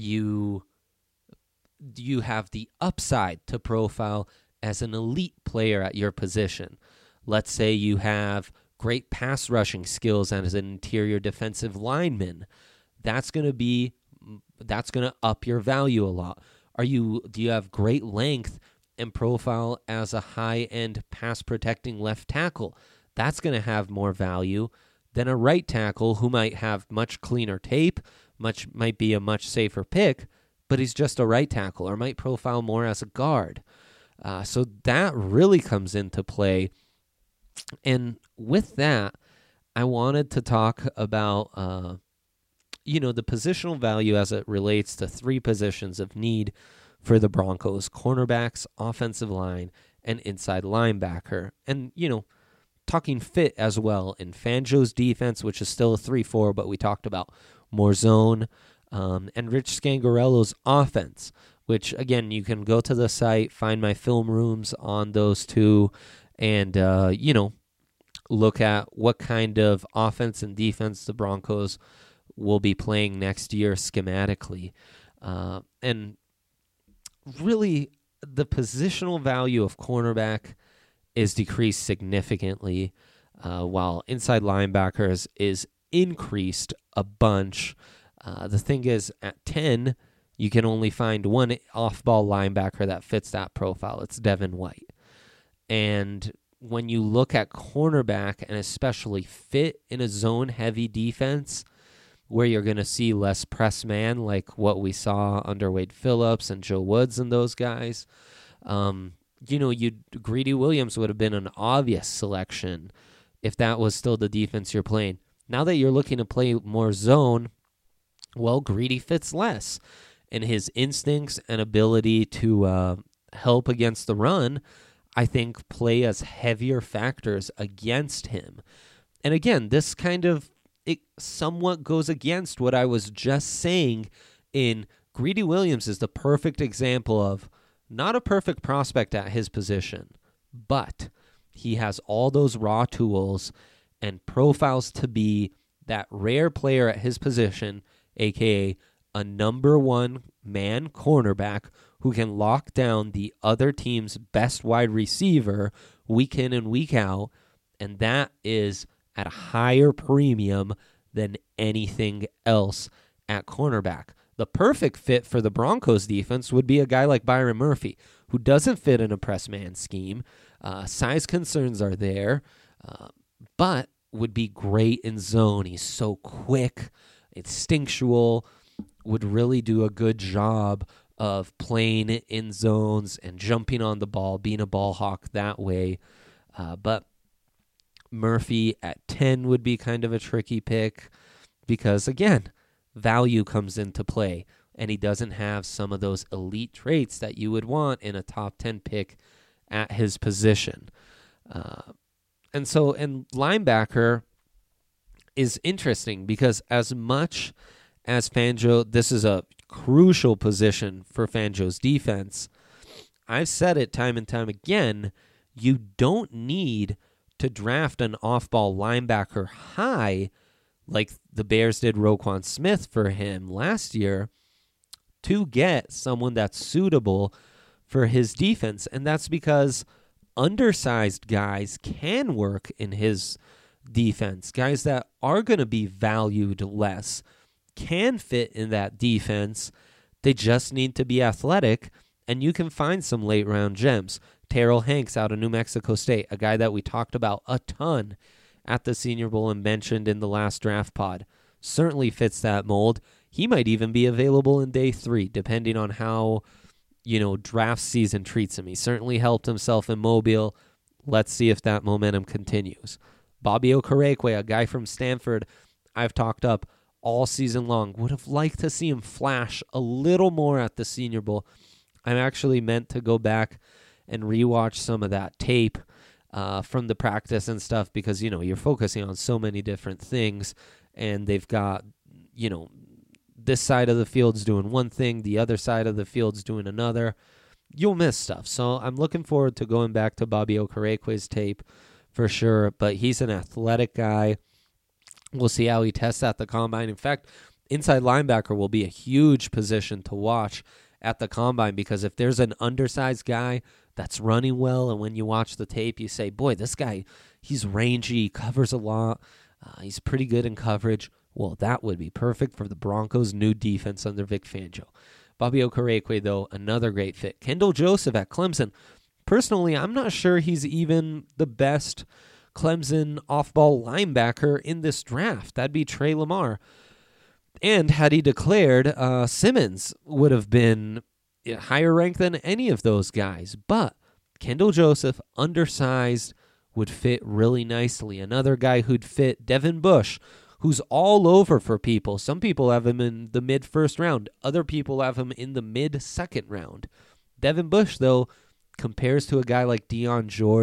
you have the upside to profile as an elite player at your position? Let's say you have great pass rushing skills as an interior defensive lineman. That's going to up your value a lot. Do you have great length and profile as a high-end pass protecting left tackle? That's going to have more value than a right tackle who might have much cleaner tape, might be a much safer pick, but he's just a right tackle, or might profile more as a guard. So that really comes into play. And with that, I wanted to talk about, the positional value as it relates to 3 positions of need for the Broncos: cornerbacks, offensive line, and inside linebacker. And, talking fit as well in Fangio's defense, which is still a 3-4, but we talked about more zone. and Rich Scangarello's offense, which, again, you can go to the site, find my film rooms on those two, and, look at what kind of offense and defense the Broncos will be playing next year schematically. And really, the positional value of cornerback is decreased significantly, while inside linebackers is increased a bunch. The thing is, at 10, you can only find one off-ball linebacker that fits that profile. It's Devin White. And when you look at cornerback, and especially fit in a zone-heavy defense, where you're going to see less press man, like what we saw under Wade Phillips and Joe Woods and those guys, Greedy Williams would have been an obvious selection if that was still the defense you're playing. Now that you're looking to play more zone, well, Greedy fits less. And his instincts and ability to help against the run, I think, play as heavier factors against him. And again, this it somewhat goes against what I was just saying in Greedy Williams is the perfect example of not a perfect prospect at his position, but he has all those raw tools and profiles to be that rare player at his position, a.k.a. a number one man cornerback who can lock down the other team's best wide receiver week in and week out, and that is at a higher premium than anything else at cornerback. The perfect fit for the Broncos defense would be a guy like Byron Murphy, who doesn't fit in a press man scheme. Size concerns are there, but would be great in zone. He's so quick, instinctual, would really do a good job of playing in zones and jumping on the ball, being a ball hawk that way. But Murphy at 10 would be kind of a tricky pick because, again, value comes into play, and he doesn't have some of those elite traits that you would want in a top 10 pick at his position. And linebacker is interesting because as much as Fangio, this is a crucial position for Fangio's defense, I've said it time and time again, you don't need to draft an off-ball linebacker high like the Bears did Roquan Smith for him last year to get someone that's suitable for his defense. And that's because undersized guys can work in his defense. Guys that are going to be valued less can fit in that defense. They just need to be athletic, and you can find some late-round gems. Terrell Hanks out of New Mexico State, a guy that we talked about a ton at the Senior Bowl and mentioned in the last draft pod, certainly fits that mold. He might even be available in day 3, depending on how, draft season treats him. He certainly helped himself in Mobile. Let's see if that momentum continues. Bobby Okereke, a guy from Stanford I've talked up all season long. Would have liked to see him flash a little more at the Senior Bowl. I'm actually meant to go back and rewatch some of that tape from the practice and stuff because, you're focusing on so many different things, and they've got, this side of the field's doing one thing, the other side of the field's doing another. You'll miss stuff. So I'm looking forward to going back to Bobby Okereke's tape for sure, but he's an athletic guy. We'll see how he tests at the combine. In fact, inside linebacker will be a huge position to watch at the combine because if there's an undersized guy that's running well, and when you watch the tape, you say, boy, this guy, he's rangy, he covers a lot, he's pretty good in coverage. Well, that would be perfect for the Broncos' new defense under Vic Fangio. Bobby Okereke, though, another great fit. Kendall Joseph at Clemson. Personally, I'm not sure he's even the best Clemson off-ball linebacker in this draft. That'd be Trey Lamar. And had he declared, Simmons would have been higher ranked than any of those guys. But Kendall Joseph, undersized, would fit really nicely. Another guy who'd fit, Devin Bush, who's all over for people. Some people have him in the mid-first round. Other people have him in the mid-second round. Devin Bush, though, compares to a guy like Deion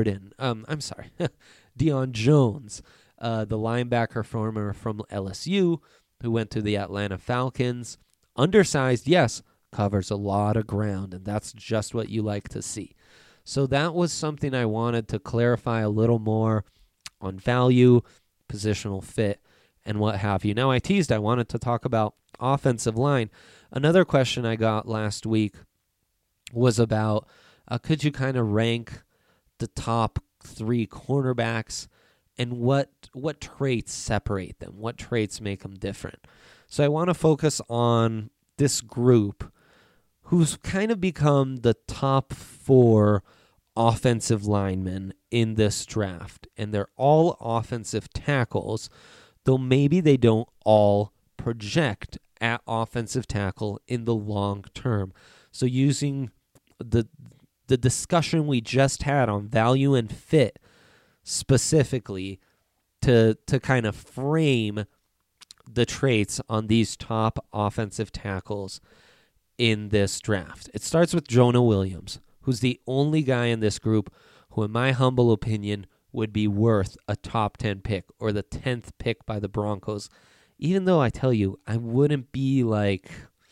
Jones, the linebacker from LSU, who went to the Atlanta Falcons. Undersized, yes, covers a lot of ground, and that's just what you like to see. So that was something I wanted to clarify a little more on value, positional fit, and what have you. Now, I teased I wanted to talk about offensive line. Another question I got last week was about could you kind of rank the top 3 cornerbacks and what traits separate them? What traits make them different? So I want to focus on this group who's kind of become the top 4 offensive linemen in this draft. And they're all offensive tackles, though maybe they don't all project at offensive tackle in the long term. So using the discussion we just had on value and fit specifically to kind of frame the traits on these top offensive tackles in this draft. It starts with Jonah Williams, who's the only guy in this group who, in my humble opinion, would be worth a top 10 pick or the 10th pick by the Broncos, even though I tell you, I wouldn't be like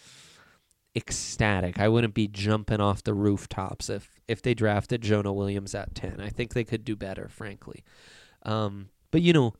ecstatic. I wouldn't be jumping off the rooftops if they drafted Jonah Williams at 10. I think they could do better, frankly. But, you know,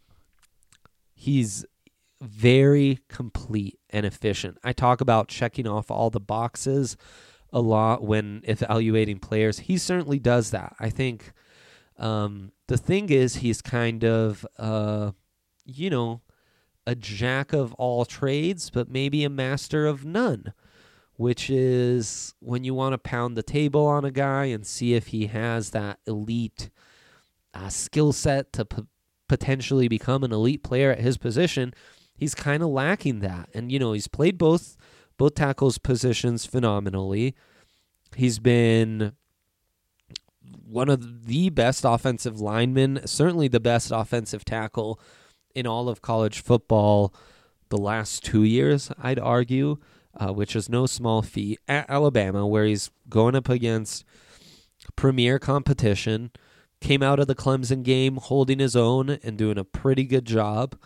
he's very complete and efficient. I talk about checking off all the boxes a lot when evaluating players. He certainly does that. I think the thing is he's kind of, you know, a jack of all trades, but maybe a master of none, which is when you want to pound the table on a guy and see if he has that elite skill set to potentially become an elite player at his position. He's kind of lacking that. And, you know, he's played both tackles positions phenomenally. He's been one of the best offensive linemen, certainly the best offensive tackle in all of college football the last 2 years, I'd argue, which is no small feat, at Alabama, where he's going up against premier competition, came out of the Clemson game holding his own and doing a pretty good job.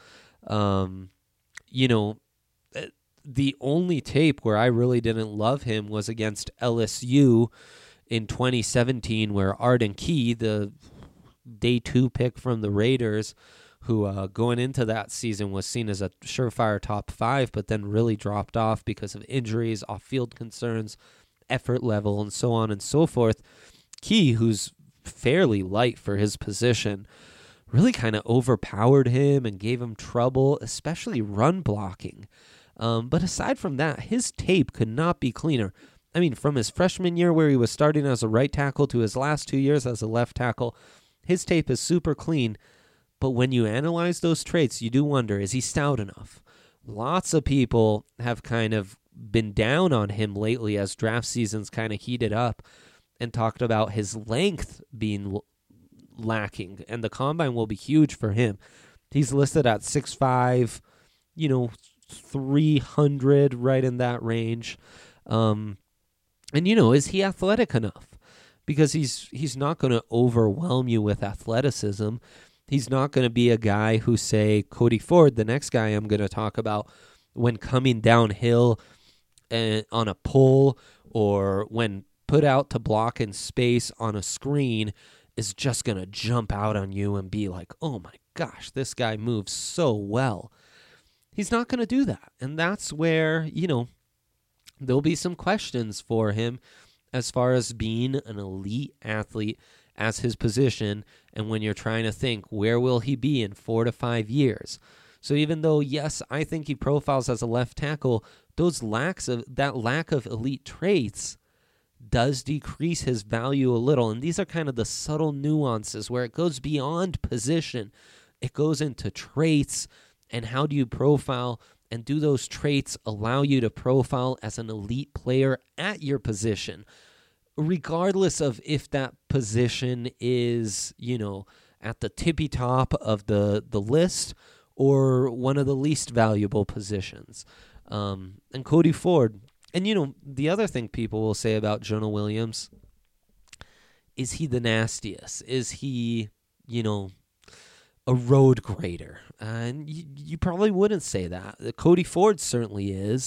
You know, the only tape where I really didn't love him was against LSU in 2017, where Arden Key, the day 2 pick from the Raiders, who going into that season was seen as a surefire top 5, but then really dropped off because of injuries, off-field concerns, effort level, and so on and so forth. Key, who's fairly light for his position, really kind of overpowered him and gave him trouble, especially run blocking. But aside from that, his tape could not be cleaner. I mean, from his freshman year where he was starting as a right tackle to his last 2 years as a left tackle, his tape is super clean. But when you analyze those traits, you do wonder, is he stout enough? Lots of people have kind of been down on him lately as draft season's kind of heated up and talked about his length being lacking, and the combine will be huge for him. He's listed at 6'5", 300, right in that range. And, is he athletic enough? Because he's not going to overwhelm you with athleticism. He's not going to be a guy who, say, Cody Ford, the next guy I'm going to talk about, when coming downhill on a pull or when put out to block in space on a screen, is just going to jump out on you and be like, oh my gosh, this guy moves so well. He's not going to do that. And that's where, there'll be some questions for him as far as being an elite athlete as his position, and when you're trying to think, where will he be in 4 to 5 years? So even though, yes, I think he profiles as a left tackle, that lack of elite traits does decrease his value a little. And these are kind of the subtle nuances where it goes beyond position. It goes into traits, and how do you profile, and do those traits allow you to profile as an elite player at your position, regardless of if that position is, at the tippy top of the list or one of the least valuable positions. And Cody Ford. And, the other thing people will say about Jonah Williams, is he the nastiest? Is he, a road grader? And you probably wouldn't say that. Cody Ford certainly is.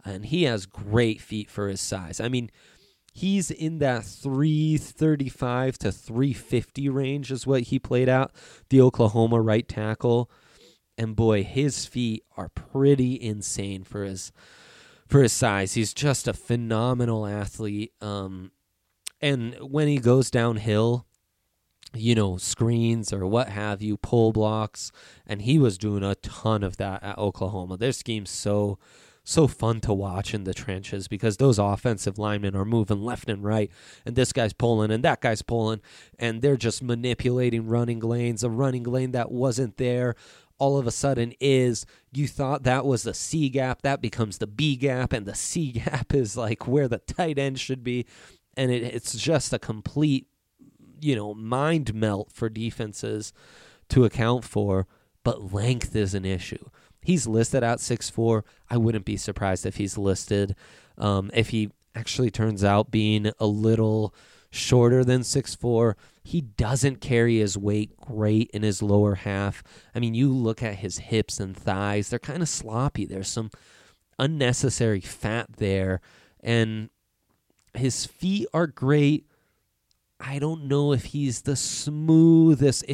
and he has great feet for his size. I mean, he's in that 335 to 350 range is what he played at, the Oklahoma right tackle. And boy, his feet are pretty insane for his size. He's just a phenomenal athlete. And when he goes downhill, screens or what have you, pull blocks, and he was doing a ton of that at Oklahoma. Their scheme's so fun to watch in the trenches because those offensive linemen are moving left and right, and this guy's pulling and that guy's pulling, and they're just manipulating running lanes. A running lane that wasn't there all of a sudden is, you thought that was the C gap, that becomes the B gap, and the C gap is like where the tight end should be, and it's just a complete, mind melt for defenses to account for, but length is an issue. He's listed at 6'4". I wouldn't be surprised if he's listed. If he actually turns out being a little shorter than 6'4", he doesn't carry his weight great in his lower half. I mean, you look at his hips and thighs, they're kind of sloppy. There's some unnecessary fat there, and his feet are great. I don't know if he has the smoothest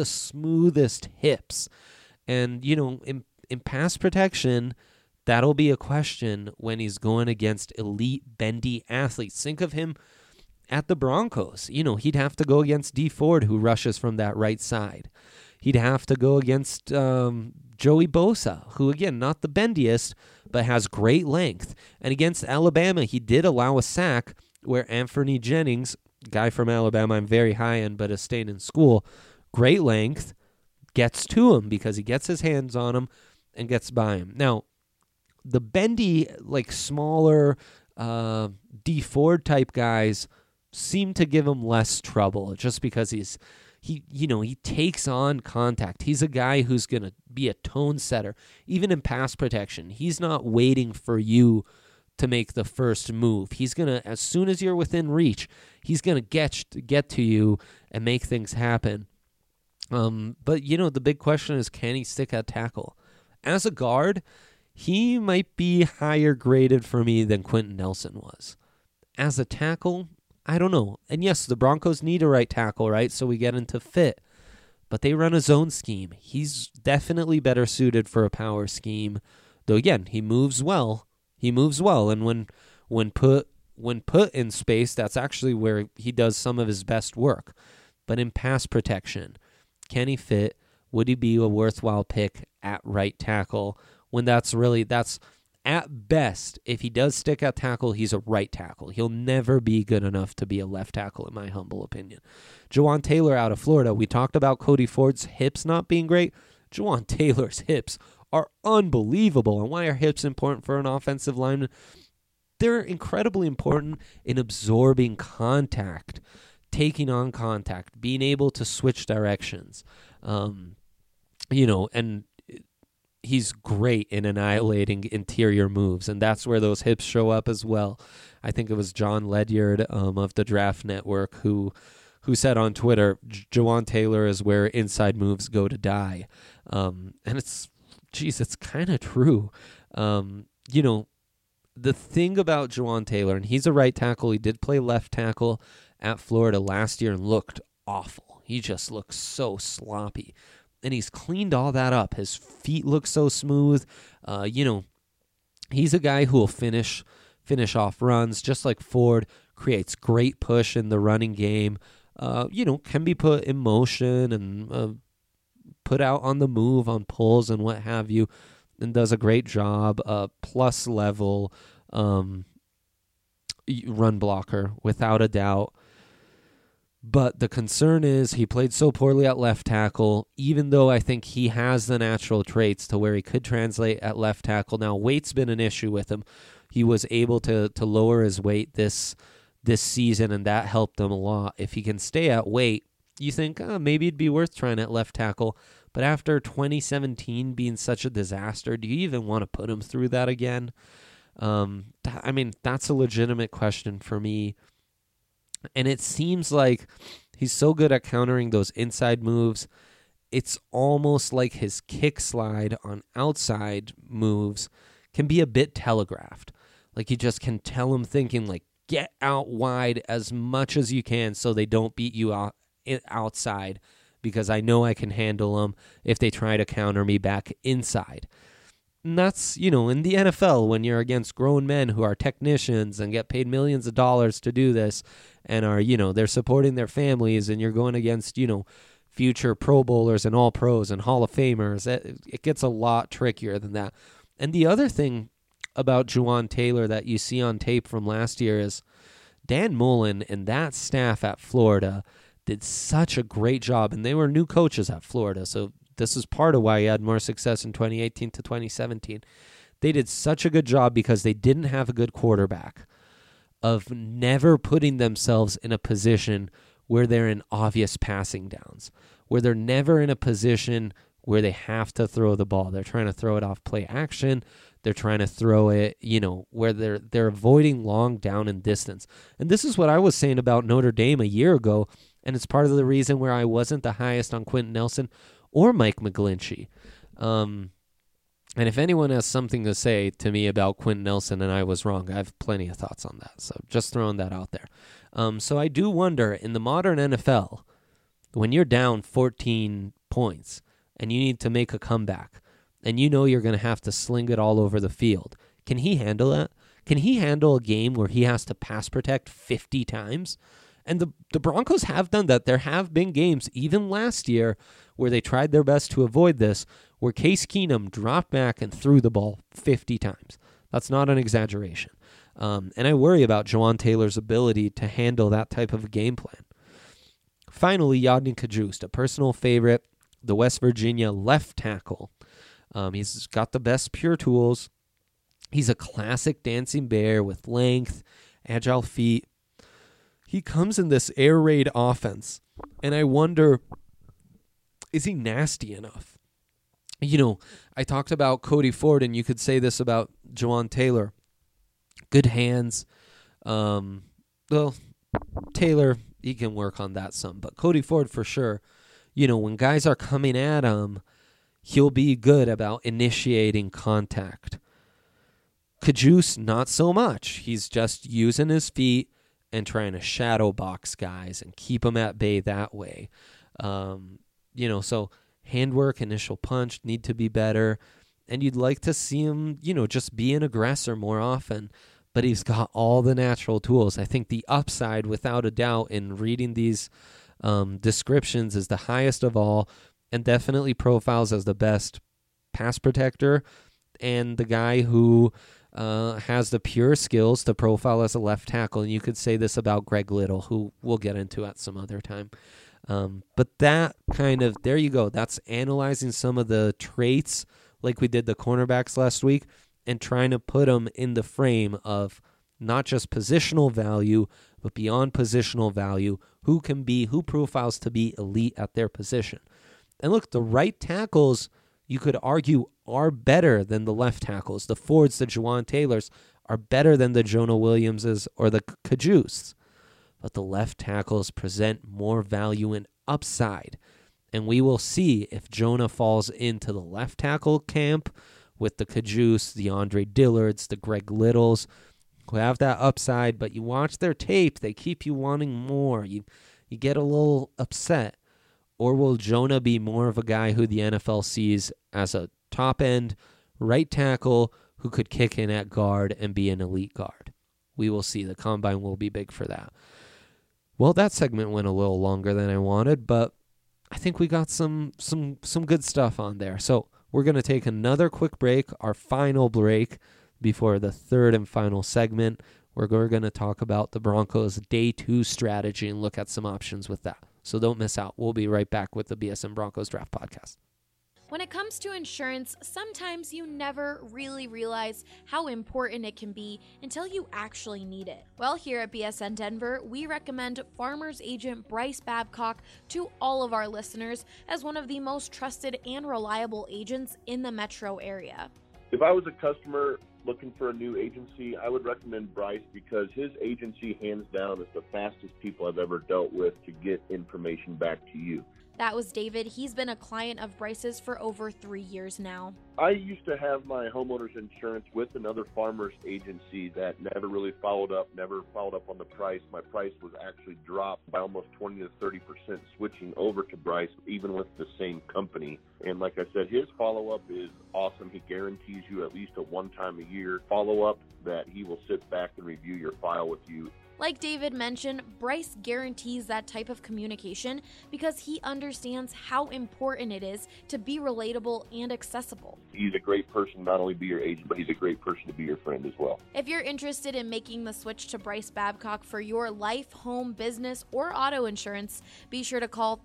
hips. And, in pass protection, that'll be a question when he's going against elite bendy athletes. Think of him at the Broncos. He'd have to go against Dee Ford, who rushes from that right side. He'd have to go against Joey Bosa, who, again, not the bendiest, but has great length. And against Alabama, he did allow a sack where Anthony Jennings, guy from Alabama I'm very high in but has stayed in school, great length, gets to him because he gets his hands on him and gets by him. Now, the bendy, smaller Dee Ford type guys seem to give him less trouble just because he takes on contact. He's a guy who's going to be a tone setter. Even in pass protection, he's not waiting for you to make the first move. He's going to, as soon as you're within reach, he's going to get to you and make things happen. But, the big question is, can he stick at tackle? As a guard, he might be higher graded for me than Quentin Nelson was. As a tackle, I don't know. And yes, the Broncos need a right tackle, right? So we get into fit. But they run a zone scheme. He's definitely better suited for a power scheme. Though, again, he moves well. And when put in space, that's actually where he does some of his best work. But in pass protection, can he fit? Would he be a worthwhile pick at right tackle? When that's at best, if he does stick at tackle, he's a right tackle. He'll never be good enough to be a left tackle, in my humble opinion. Jawaan Taylor out of Florida. We talked about Cody Ford's hips not being great. Jawaan Taylor's hips are unbelievable. And why are hips important for an offensive lineman? They're incredibly important in absorbing contact, taking on contact, being able to switch directions. And he's great in annihilating interior moves, and that's where those hips show up as well. I think it was John Ledyard of the Draft Network who said on Twitter, Jawaan Taylor is where inside moves go to die. And it's kind of true. The thing about Jawaan Taylor, and he's a right tackle, he did play left tackle at Florida last year and looked awful. He just looks so sloppy. And he's cleaned all that up. His feet look so smooth. He's a guy who will finish off runs, just like Ford, creates great push in the running game, can be put in motion and put out on the move on pulls and what have you, and does a great job, plus level run blocker, without a doubt. But the concern is he played so poorly at left tackle, even though I think he has the natural traits to where he could translate at left tackle. Now, weight's been an issue with him. He was able to lower his weight this season, and that helped him a lot. If he can stay at weight, you think maybe it'd be worth trying at left tackle. But after 2017 being such a disaster, do you even want to put him through that again? That's a legitimate question for me. And it seems like he's so good at countering those inside moves. It's almost like his kick slide on outside moves can be a bit telegraphed. Like, you just can tell them thinking, like, get out wide as much as you can so they don't beat you outside, because I know I can handle them if they try to counter me back inside. And that's, in the NFL, when you're against grown men who are technicians and get paid millions of dollars to do this and are, they're supporting their families, and you're going against, future Pro Bowlers and All Pros and Hall of Famers. It gets a lot trickier than that. And the other thing about Jawaan Taylor that you see on tape from last year is Dan Mullen and that staff at Florida did such a great job, and they were new coaches at Florida, so this is part of why he had more success in 2018 to 2017. They did such a good job because they didn't have a good quarterback of never putting themselves in a position where they're in obvious passing downs, where they're never in a position where they have to throw the ball. They're trying to throw it off play action. They're trying to throw it, where they're avoiding long down and distance. And this is what I was saying about Notre Dame a year ago, and it's part of the reason where I wasn't the highest on Quentin Nelson or Mike McGlinchey. And if anyone has something to say to me about Quentin Nelson and I was wrong, I have plenty of thoughts on that. So just throwing that out there. So I do wonder, in the modern NFL, when you're down 14 points and you need to make a comeback, and you're going to have to sling it all over the field, can he handle that? Can he handle a game where he has to pass protect 50 times? And the Broncos have done that. There have been games, even last year, where they tried their best to avoid this, where Case Keenum dropped back and threw the ball 50 times. That's not an exaggeration. And I worry about Jawaan Taylor's ability to handle that type of a game plan. Finally, Yodny Cajuste, a personal favorite, the West Virginia left tackle. He's got the best pure tools. He's a classic dancing bear with length, agile feet. He comes in this air raid offense, and I wonder, is he nasty enough? I talked about Cody Ford, and you could say this about Jawaan Taylor. Good hands. Well, Taylor, he can work on that some, but Cody Ford for sure. When guys are coming at him, he'll be good about initiating contact. Cajuste, not so much. He's just using his feet and trying to shadow box guys and keep them at bay that way. So handwork, initial punch need to be better. And you'd like to see him, just be an aggressor more often. But he's got all the natural tools. I think the upside, without a doubt, in reading these descriptions is the highest of all, and definitely profiles as the best pass protector and the guy who has the pure skills to profile as a left tackle. And you could say this about Greg Little, who we'll get into at some other time. But that there you go. That's analyzing some of the traits like we did the cornerbacks last week and trying to put them in the frame of not just positional value, but beyond positional value, who profiles to be elite at their position. And look, the right tackles, you could argue, are better than the left tackles. The Fords, the Jawaan Taylors, are better than the Jonah Williamses or the Cajustes. But the left tackles present more value and upside. And we will see if Jonah falls into the left tackle camp with the Cajuste, the Andre Dillards, the Greg Littles, who have that upside, but you watch their tape, they keep you wanting more. You get a little upset. Or will Jonah be more of a guy who the NFL sees as a top-end right tackle who could kick in at guard and be an elite guard? We will see. The combine will be big for that. Well, that segment went a little longer than I wanted, but I think we got some good stuff on there. So we're going to take another quick break, our final break before the third and final segment. We're going to talk about the Broncos' Day 2 strategy and look at some options with that. So don't miss out. We'll be right back with the BSN Broncos Draft Podcast. When it comes to insurance, sometimes you never really realize how important it can be until you actually need it. Well, here at BSN Denver, we recommend Farmers Agent Bryce Babcock to all of our listeners as one of the most trusted and reliable agents in the metro area. If I was a customer looking for a new agency, I would recommend Bryce because his agency, hands down, is the fastest people I've ever dealt with to get information back to you. That was David. He's been a client of Bryce's for over 3 years now. I used to have my homeowner's insurance with another farmer's agency that never really followed up on the price. My price was actually dropped by almost 20 to 30% switching over to Bryce, even with the same company. And like I said, his follow-up is awesome. He guarantees you at least a one-time-a-year follow-up that he will sit back and review your file with you. Like David mentioned, Bryce guarantees that type of communication because he understands how important it is to be relatable and accessible. He's a great person, not only be your agent, but he's a great person to be your friend as well. If you're interested in making the switch to Bryce Babcock for your life, home, business, or auto insurance, be sure to call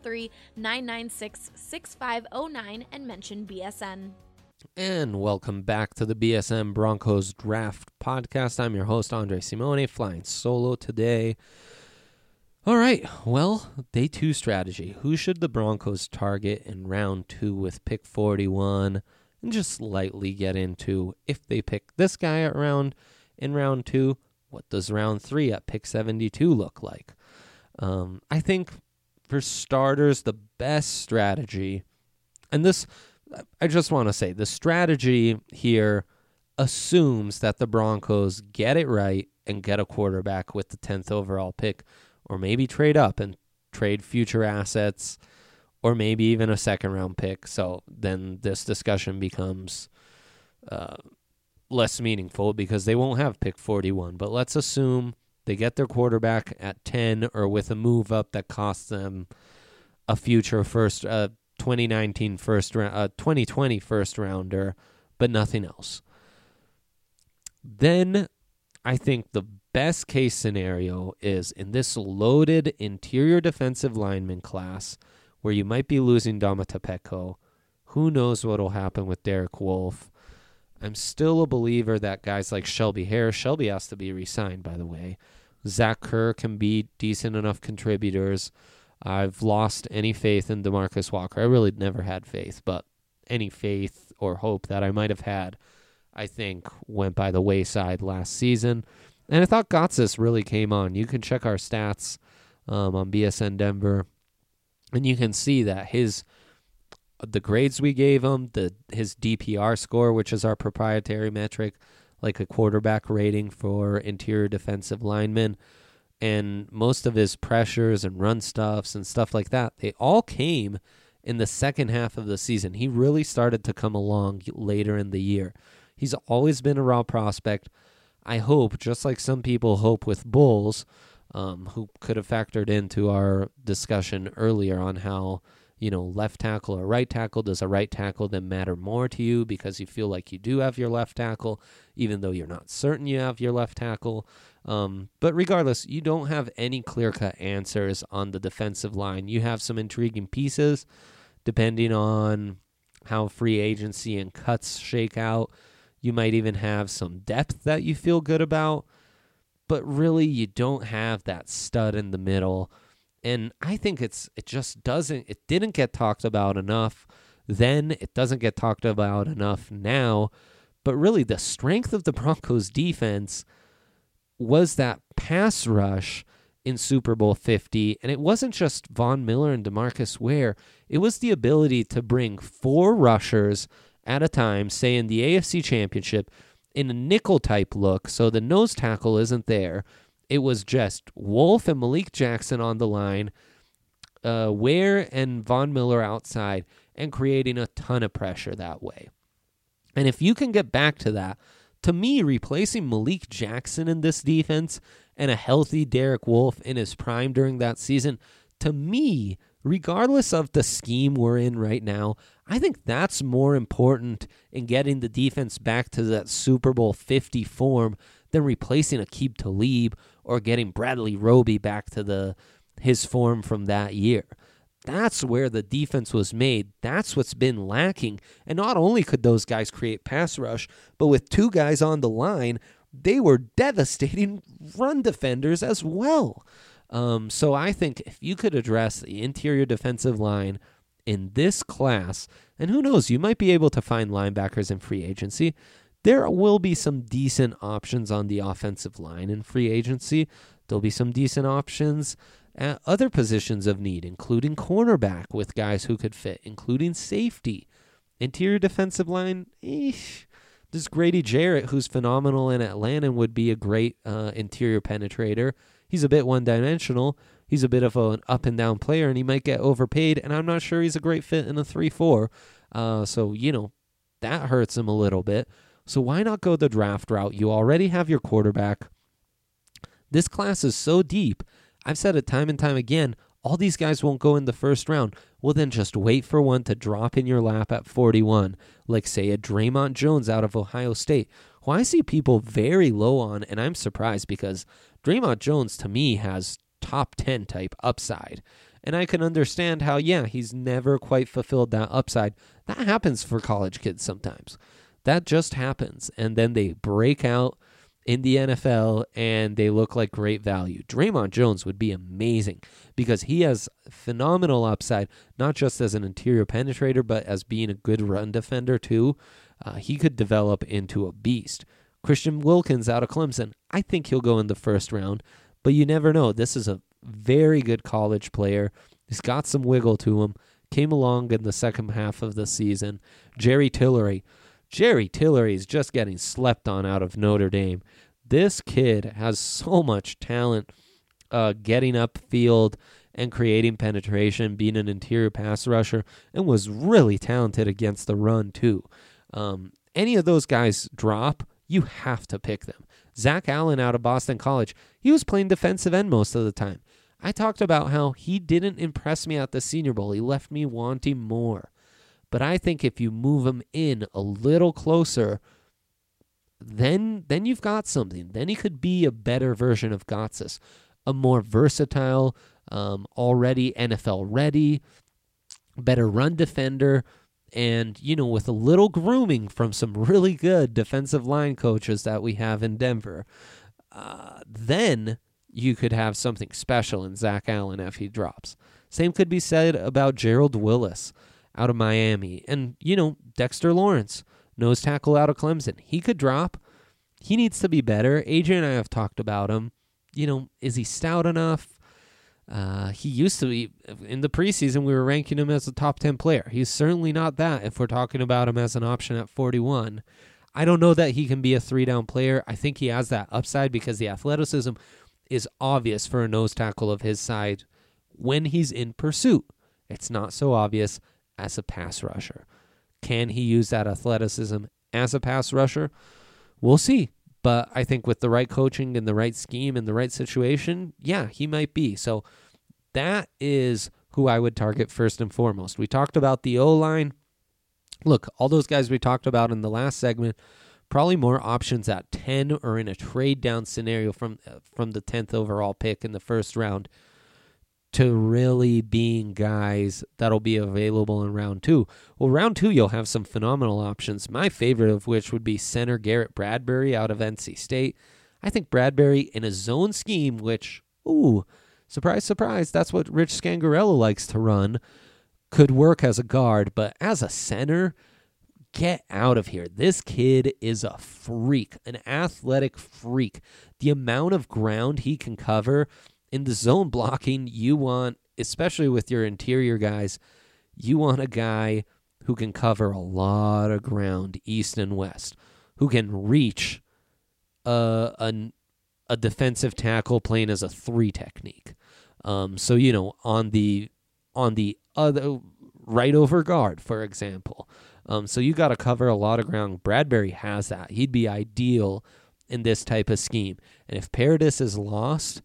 303-996-6509 and mention BSN. And welcome back to the BSN Broncos Draft Podcast. I'm your host, Andre Simone, flying solo today. All right, well, day 2 strategy. Who should the Broncos target in round 2 with pick 41? And just lightly get into, if they pick this guy in round 2, what does round 3 at pick 72 look like? I think for starters, the best strategy, and this, I just want to say, the strategy here assumes that the Broncos get it right and get a quarterback with the 10th overall pick, or maybe trade up and trade future assets, or maybe even a second-round pick. So then this discussion becomes less meaningful because they won't have pick 41. But let's assume they get their quarterback at 10 or with a move up that costs them a future 2020 first rounder, but nothing else. Then I think the best case scenario is in this loaded interior defensive lineman class where you might be losing Domata Peko. Who knows what will happen with Derek Wolfe. I'm still a believer that guys like Shelby Harris, Shelby has to be re-signed, by the way. Zach Kerr can be decent enough contributors. I've lost any faith in DeMarcus Walker. I really never had faith, but any faith or hope that I might have had, I think, went by the wayside last season. And I thought Gotsis really came on. You can check our stats on BSN Denver, and you can see that the grades we gave him, his DPR score, which is our proprietary metric, like a quarterback rating for interior defensive linemen, and most of his pressures and run stuffs and stuff like that, they all came in the second half of the season. He really started to come along later in the year. He's always been a raw prospect. I hope, just like some people hope with Bulls, who could have factored into our discussion earlier on how, left tackle or right tackle, does a right tackle then matter more to you because you feel like you do have your left tackle, even though you're not certain you have your left tackle. But regardless, you don't have any clear-cut answers on the defensive line. You have some intriguing pieces depending on how free agency and cuts shake out. You might even have some depth that you feel good about, but really you don't have that stud in the middle. And I think it didn't get talked about enough then. It doesn't get talked about enough now. But really the strength of the Broncos defense was that pass rush in Super Bowl 50. And it wasn't just Von Miller and DeMarcus Ware. It was the ability to bring 4 rushers at a time, say in the AFC Championship, in a nickel-type look, so the nose tackle isn't there. It was just Wolfe and Malik Jackson on the line, Ware and Von Miller outside, and creating a ton of pressure that way. And if you can get back to that, to me, replacing Malik Jackson in this defense and a healthy Derek Wolfe in his prime during that season, to me, regardless of the scheme we're in right now, I think that's more important in getting the defense back to that Super Bowl 50 form than replacing Aqib Talib or getting Bradley Roby back to his form from that year. That's where the defense was made. That's what's been lacking. And not only could those guys create pass rush, but with 2 guys on the line, they were devastating run defenders as well. So I think if you could address the interior defensive line in this class, and who knows, you might be able to find linebackers in free agency. There will be some decent options on the offensive line in free agency. There'll be some decent options at other positions of need, including cornerback with guys who could fit, including safety. Interior defensive line, There's Grady Jarrett, who's phenomenal in Atlanta and would be a great interior penetrator. He's a bit one-dimensional. He's a bit of an up-and-down player, and he might get overpaid, and I'm not sure he's a great fit in a 3-4. So, that hurts him a little bit. So why not go the draft route? You already have your quarterback. This class is so deep. I've said it time and time again, all these guys won't go in the first round. Well, then just wait for one to drop in your lap at 41, like, say, a Draymond Jones out of Ohio State, who I see people very low on, and I'm surprised because Draymond Jones, to me, has top 10 type upside. And I can understand how, he's never quite fulfilled that upside. That happens for college kids sometimes. That just happens. And then they break out in the NFL and they look like great value. Draymond Jones would be amazing because he has phenomenal upside, not just as an interior penetrator, but as being a good run defender too. He could develop into a beast. Christian Wilkins out of Clemson, I think he'll go in the first round, but you never know. This is a very good college player. He's got some wiggle to him. Came along in the second half of the season. Jerry Tillery is just getting slept on out of Notre Dame. This kid has so much talent getting upfield and creating penetration, being an interior pass rusher, and was really talented against the run too. Any of those guys drop, you have to pick them. Zach Allen out of Boston College, he was playing defensive end most of the time. I talked about how he didn't impress me at the Senior Bowl. He left me wanting more. But I think if you move him in a little closer, then you've got something. Then he could be a better version of Gotsis, a more versatile, already NFL ready, better run defender, and with a little grooming from some really good defensive line coaches that we have in Denver, then you could have something special in Zach Allen if he drops. Same could be said about Gerald Willis out of Miami. And, Dexter Lawrence, nose tackle out of Clemson. He could drop. He needs to be better. AJ and I have talked about him. Is he stout enough? He used to be, in the preseason, we were ranking him as a top 10 player. He's certainly not that if we're talking about him as an option at 41. I don't know that he can be a 3-down player. I think he has that upside because the athleticism is obvious for a nose tackle of his size when he's in pursuit. It's not so obvious as a pass rusher. Can he use that athleticism as a pass rusher? We'll see. But I think with the right coaching and the right scheme and the right situation, he might be. So that is who I would target first and foremost. We talked about the O-line. Look, all those guys we talked about in the last segment, probably more options at 10 or in a trade down scenario from the 10th overall pick in the first round to really being guys that'll be available in round 2. Well, round 2, you'll have some phenomenal options, my favorite of which would be center Garrett Bradbury out of NC State. I think Bradbury in a zone scheme, which, surprise, surprise, that's what Rich Scangarello likes to run, could work as a guard, but as a center, get out of here. This kid is a freak, an athletic freak. The amount of ground he can cover in the zone blocking, you want, especially with your interior guys, you want a guy who can cover a lot of ground east and west, who can reach a defensive tackle playing as a 3 technique. So, on the other right over guard, for example. So you got to cover a lot of ground. Bradbury has that. He'd be ideal in this type of scheme. And if Paradis is lost,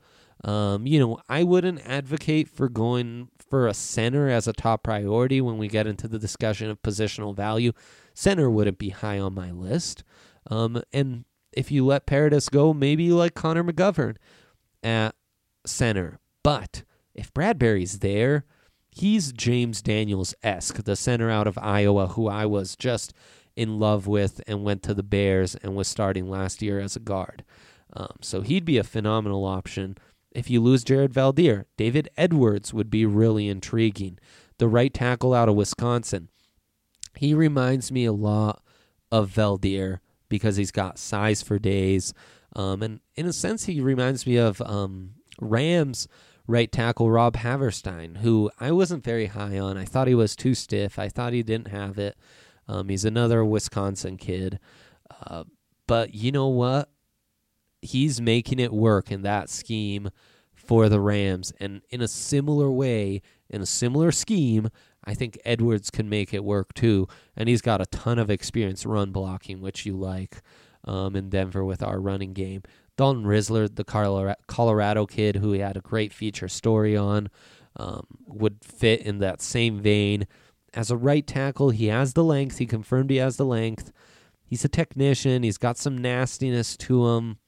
I wouldn't advocate for going for a center as a top priority when we get into the discussion of positional value. Center wouldn't be high on my list. And if you let Paradis go, maybe you like Connor McGovern at center. But if Bradbury's there, he's James Daniels-esque, the center out of Iowa, who I was just in love with and went to the Bears and was starting last year as a guard. So he'd be a phenomenal option. If you lose Jared Valdir, David Edwards would be really intriguing. The right tackle out of Wisconsin. He reminds me a lot of Valdir because he's got size for days. And in a sense, he reminds me of Rams right tackle Rob Haverstein, who I wasn't very high on. I thought he was too stiff. I thought he didn't have it. He's another Wisconsin kid. But you know what? He's making it work in that scheme for the Rams. And in a similar way, in a similar scheme, I think Edwards can make it work too. And he's got a ton of experience run blocking, which you like in Denver with our running game. Dalton Risler, the Colorado kid who he had a great feature story on, would fit in that same vein. As a right tackle, he has the length. He confirmed he has the length. He's a technician. He's got some nastiness to him.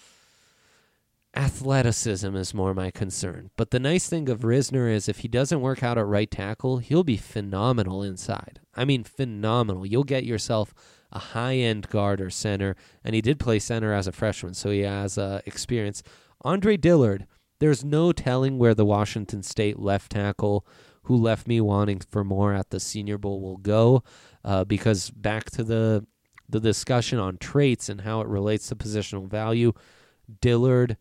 Athleticism is more my concern. But the nice thing of Risner is if he doesn't work out at right tackle, he'll be phenomenal inside. I mean, phenomenal. You'll get yourself a high-end guard or center, and he did play center as a freshman, so he has experience. Andre Dillard, there's no telling where the Washington State left tackle, who left me wanting for more at the Senior Bowl, will go, because back to the discussion on traits and how it relates to positional value, Dillard,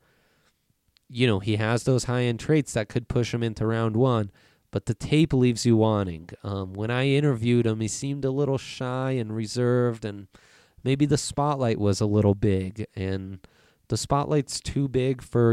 he has those high-end traits that could push him into round one, but the tape leaves you wanting. When I interviewed him, he seemed a little shy and reserved, and maybe the spotlight was a little big, and the spotlight's too big for,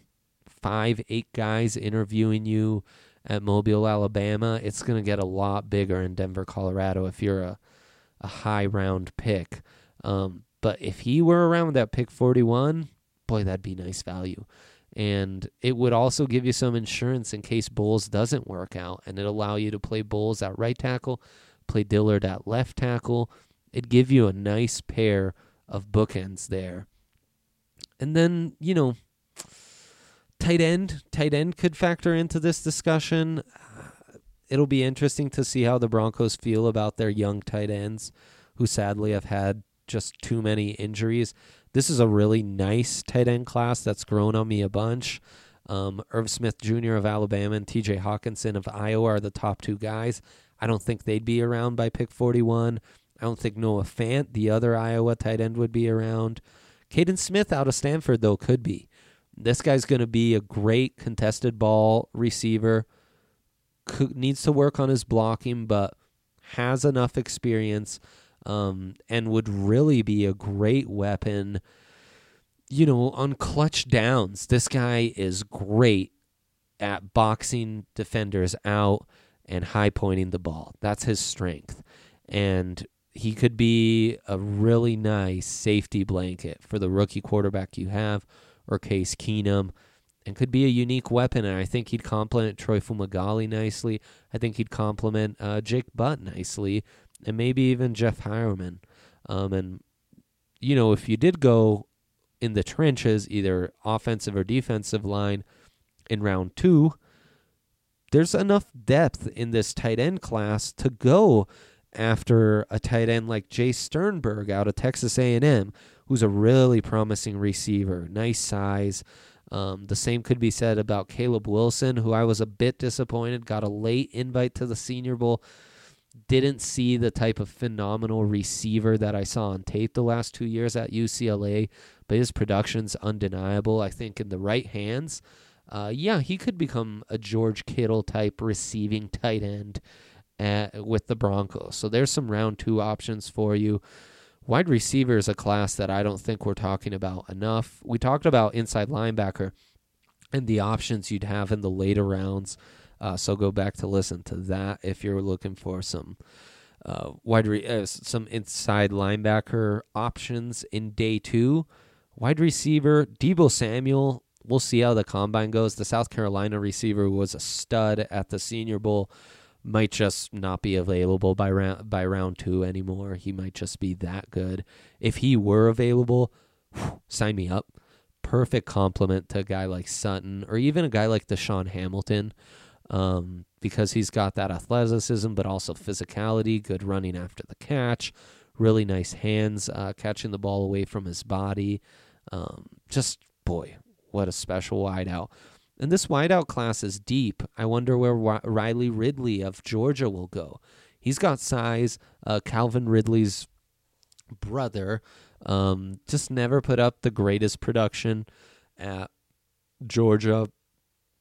5-8 guys interviewing you at Mobile, Alabama. It's going to get a lot bigger in Denver, Colorado if you're a high-round pick. But if he were around that pick 41, boy, that'd be nice value. And it would also give you some insurance in case Bowles doesn't work out, and it'd allow you to play Bowles at right tackle, play Dillard at left tackle. It'd give you a nice pair of bookends there. And then, tight end could factor into this discussion. It'll be interesting to see how the Broncos feel about their young tight ends, who sadly have had just too many injuries. This is a really nice tight end class that's grown on me a bunch. Irv Smith Jr. of Alabama and TJ Hawkinson of Iowa are the top two guys. I don't think they'd be around by pick 41. I don't think Noah Fant, the other Iowa tight end, would be around. Caden Smith out of Stanford, though, could be. This guy's going to be a great contested ball receiver. Needs to work on his blocking, but has enough experience. And would really be a great weapon, on clutch downs. This guy is great at boxing defenders out and high-pointing the ball. That's his strength. And he could be a really nice safety blanket for the rookie quarterback you have, or Case Keenum, and could be a unique weapon. And I think he'd complement Troy Fumagalli nicely. I think he'd complement Jake Butt nicely, and maybe even Jeff Hireman. And, if you did go in the trenches, either offensive or defensive line in round 2, there's enough depth in this tight end class to go after a tight end like Jay Sternberg out of Texas A&M, who's a really promising receiver, nice size. The same could be said about Caleb Wilson, who I was a bit disappointed, got a late invite to the Senior Bowl. Didn't see the type of phenomenal receiver that I saw on tape the last 2 years at UCLA, but his production's undeniable. I think in the right hands, he could become a George Kittle type receiving tight end with the Broncos. So there's some round 2 options for you. Wide receiver is a class that I don't think we're talking about enough. We talked about inside linebacker and the options you'd have in the later rounds. So go back to listen to that if you're looking for some some inside linebacker options in day 2. Wide receiver, Deebo Samuel. We'll see how the combine goes. The South Carolina receiver was a stud at the Senior Bowl. Might just not be available by round 2 anymore. He might just be that good. If he were available, sign me up. Perfect complement to a guy like Sutton, or even a guy like Deshaun Hamilton. Because he's got that athleticism, but also physicality, good running after the catch, really nice hands catching the ball away from his body. Boy, what a special wideout. And this wideout class is deep. I wonder where Riley Ridley of Georgia will go. He's got size. Calvin Ridley's brother just never put up the greatest production at Georgia.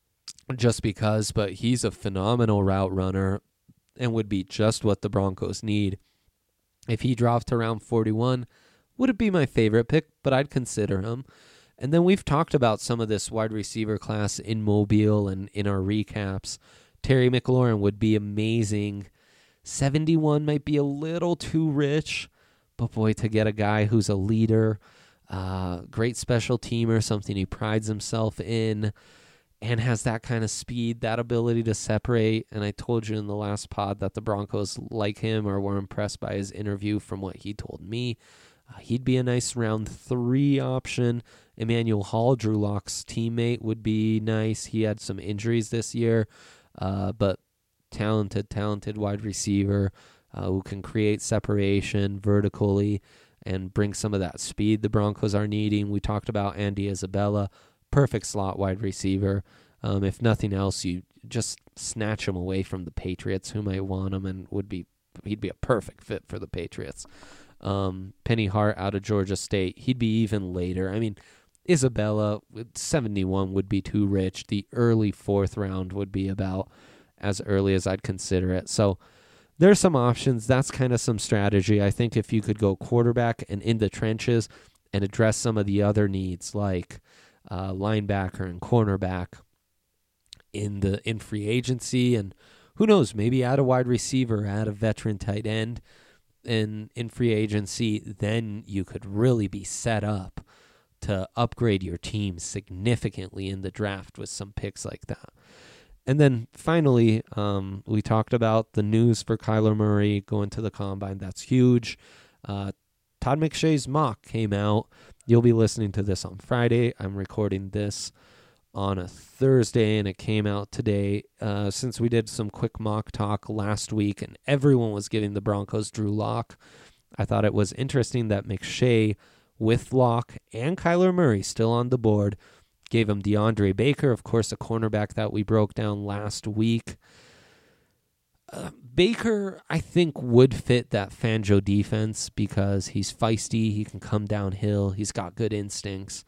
just because, but he's a phenomenal route runner and would be just what the Broncos need. If he dropped to round 41, wouldn't be my favorite pick, but I'd consider him. And then we've talked about some of this wide receiver class in Mobile and in our recaps. Terry McLaurin would be amazing. 71 might be a little too rich, but boy, to get a guy who's a leader, great special teamer, something he prides himself in, and has that kind of speed, that ability to separate. And I told you in the last pod that the Broncos like him or were impressed by his interview from what he told me. He'd be a nice round 3 option. Emmanuel Hall, Drew Lock's teammate, would be nice. He had some injuries this year, but talented wide receiver who can create separation vertically and bring some of that speed the Broncos are needing. We talked about Andy Isabella, perfect slot wide receiver. If nothing else, you just snatch him away from the Patriots, who might want him, and he'd be a perfect fit for the Patriots. Penny Hart out of Georgia State, he'd be even later. I mean, Isabella, 71 would be too rich. The early 4th round would be about as early as I'd consider it. So there's some options. That's kind of some strategy. I think if you could go quarterback and in the trenches and address some of the other needs like linebacker and cornerback in free agency, and who knows, maybe add a wide receiver, add a veteran tight end in free agency, then you could really be set up to upgrade your team significantly in the draft with some picks like that. And then finally, we talked about the news for Kyler Murray going to the Combine. That's huge. Todd McShay's mock came out. You'll be listening to this on Friday. I'm recording this on a Thursday, and it came out today. Since we did some quick mock talk last week, and everyone was giving the Broncos Drew Lock, I thought it was interesting that McShay, with Lock and Kyler Murray still on the board, gave him DeAndre Baker, of course, a cornerback that we broke down last week. Baker, I think, would fit that Fangio defense because he's feisty. He can come downhill. He's got good instincts.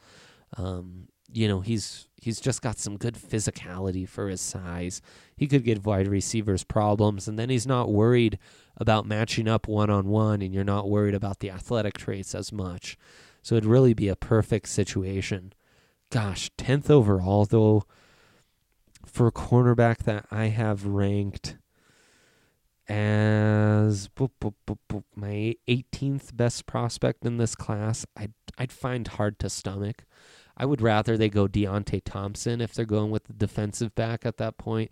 He's just got some good physicality for his size. He could give wide receivers problems, and then he's not worried about matching up one-on-one, and you're not worried about the athletic traits as much. So it'd really be a perfect situation. Gosh, 10th overall, though, for a cornerback that I have ranked as my 18th best prospect in this class, I'd find hard to stomach. I would rather they go Deontay Thompson if they're going with the defensive back at that point.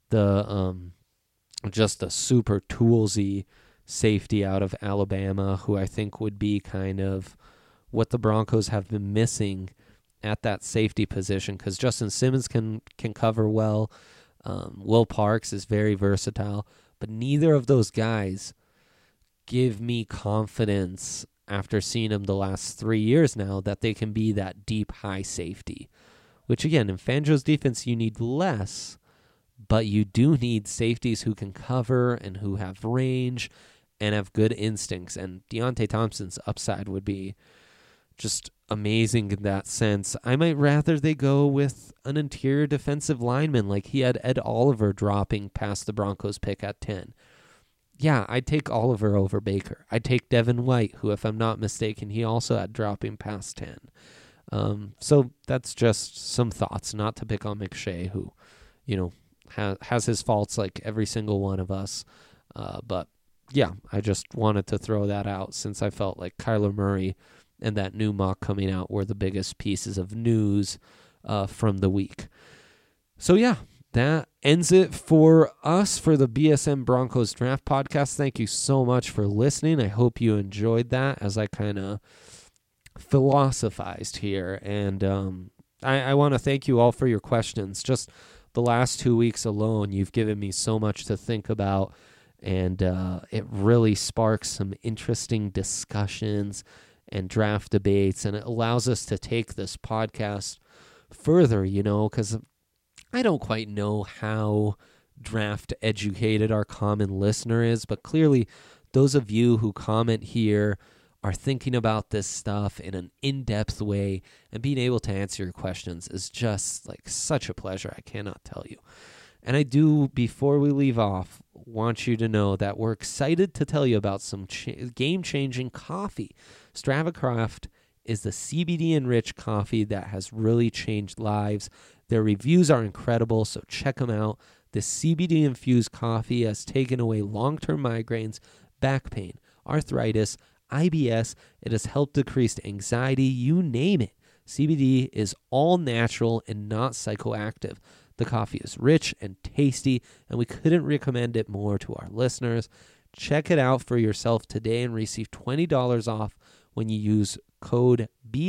Just a super toolsy safety out of Alabama, who I think would be kind of what the Broncos have been missing at that safety position, because Justin Simmons can cover well. Will Parks is very versatile, but neither of those guys give me confidence after seeing them the last 3 years now that they can be that deep high safety, which again, in Fangio's defense, you need less, but you do need safeties who can cover and who have range and have good instincts. And Deontay Thompson's upside would be just amazing in that sense. I might rather they go with an interior defensive lineman, like he had Ed Oliver dropping past the Broncos pick at 10. Yeah, I'd take Oliver over Baker. I'd take Devin White, who, if I'm not mistaken, he also had dropping past 10. So that's just some thoughts, not to pick on McShay, who, has his faults like every single one of us. But yeah, I just wanted to throw that out since I felt like Kyler Murray and that new mock coming out were the biggest pieces of news from the week. So yeah, that ends it for us for the BSN Broncos Draft Podcast. Thank you so much for listening. I hope you enjoyed that as I kind of philosophized here. And I want to thank you all for your questions. Just the last 2 weeks alone, you've given me so much to think about, and it really sparks some interesting discussions and draft debates, and it allows us to take this podcast further, because I don't quite know how draft educated our common listener is, but clearly those of you who comment here are thinking about this stuff in an in-depth way, and being able to answer your questions is just like such a pleasure. I cannot tell you. And I do, before we leave off, want you to know that we're excited to tell you about some game-changing coffee. StravaCraft is the CBD-enriched coffee that has really changed lives. Their reviews are incredible, so check them out. This CBD-infused coffee has taken away long-term migraines, back pain, arthritis, IBS. It has helped decrease anxiety, you name it. CBD is all natural and not psychoactive. The coffee is rich and tasty, and we couldn't recommend it more to our listeners. Check it out for yourself today and receive $20 off when you use code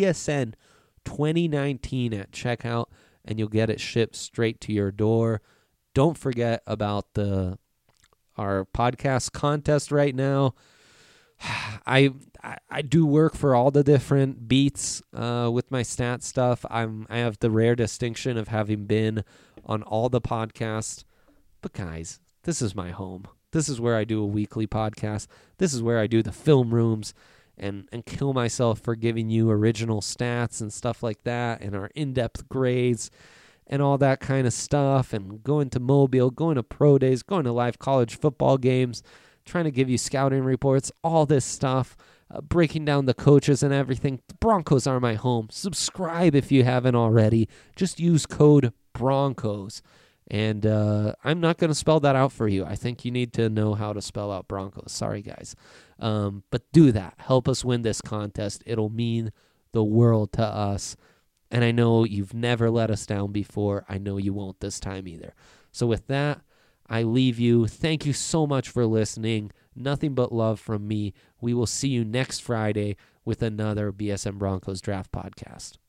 BSN2019 at checkout, and you'll get it shipped straight to your door. Don't forget about our podcast contest right now. I do work for all the different beats with my stat stuff. I have the rare distinction of having been on all the podcasts. But guys, this is my home. This is where I do a weekly podcast. This is where I do the film rooms and kill myself for giving you original stats and stuff like that, and our in-depth grades and all that kind of stuff, and going to Mobile, going to pro days, going to live college football games, trying to give you scouting reports, all this stuff, breaking down the coaches and everything. The Broncos are my home. Subscribe if you haven't already. Just use code Broncos. And I'm not going to spell that out for you. I think you need to know how to spell out Broncos. Sorry, guys. But do that. Help us win this contest. It'll mean the world to us. And I know you've never let us down before. I know you won't this time either. So with that, I leave you. Thank you so much for listening. Nothing but love from me. We will see you next Friday with another BSN Broncos Draft Podcast.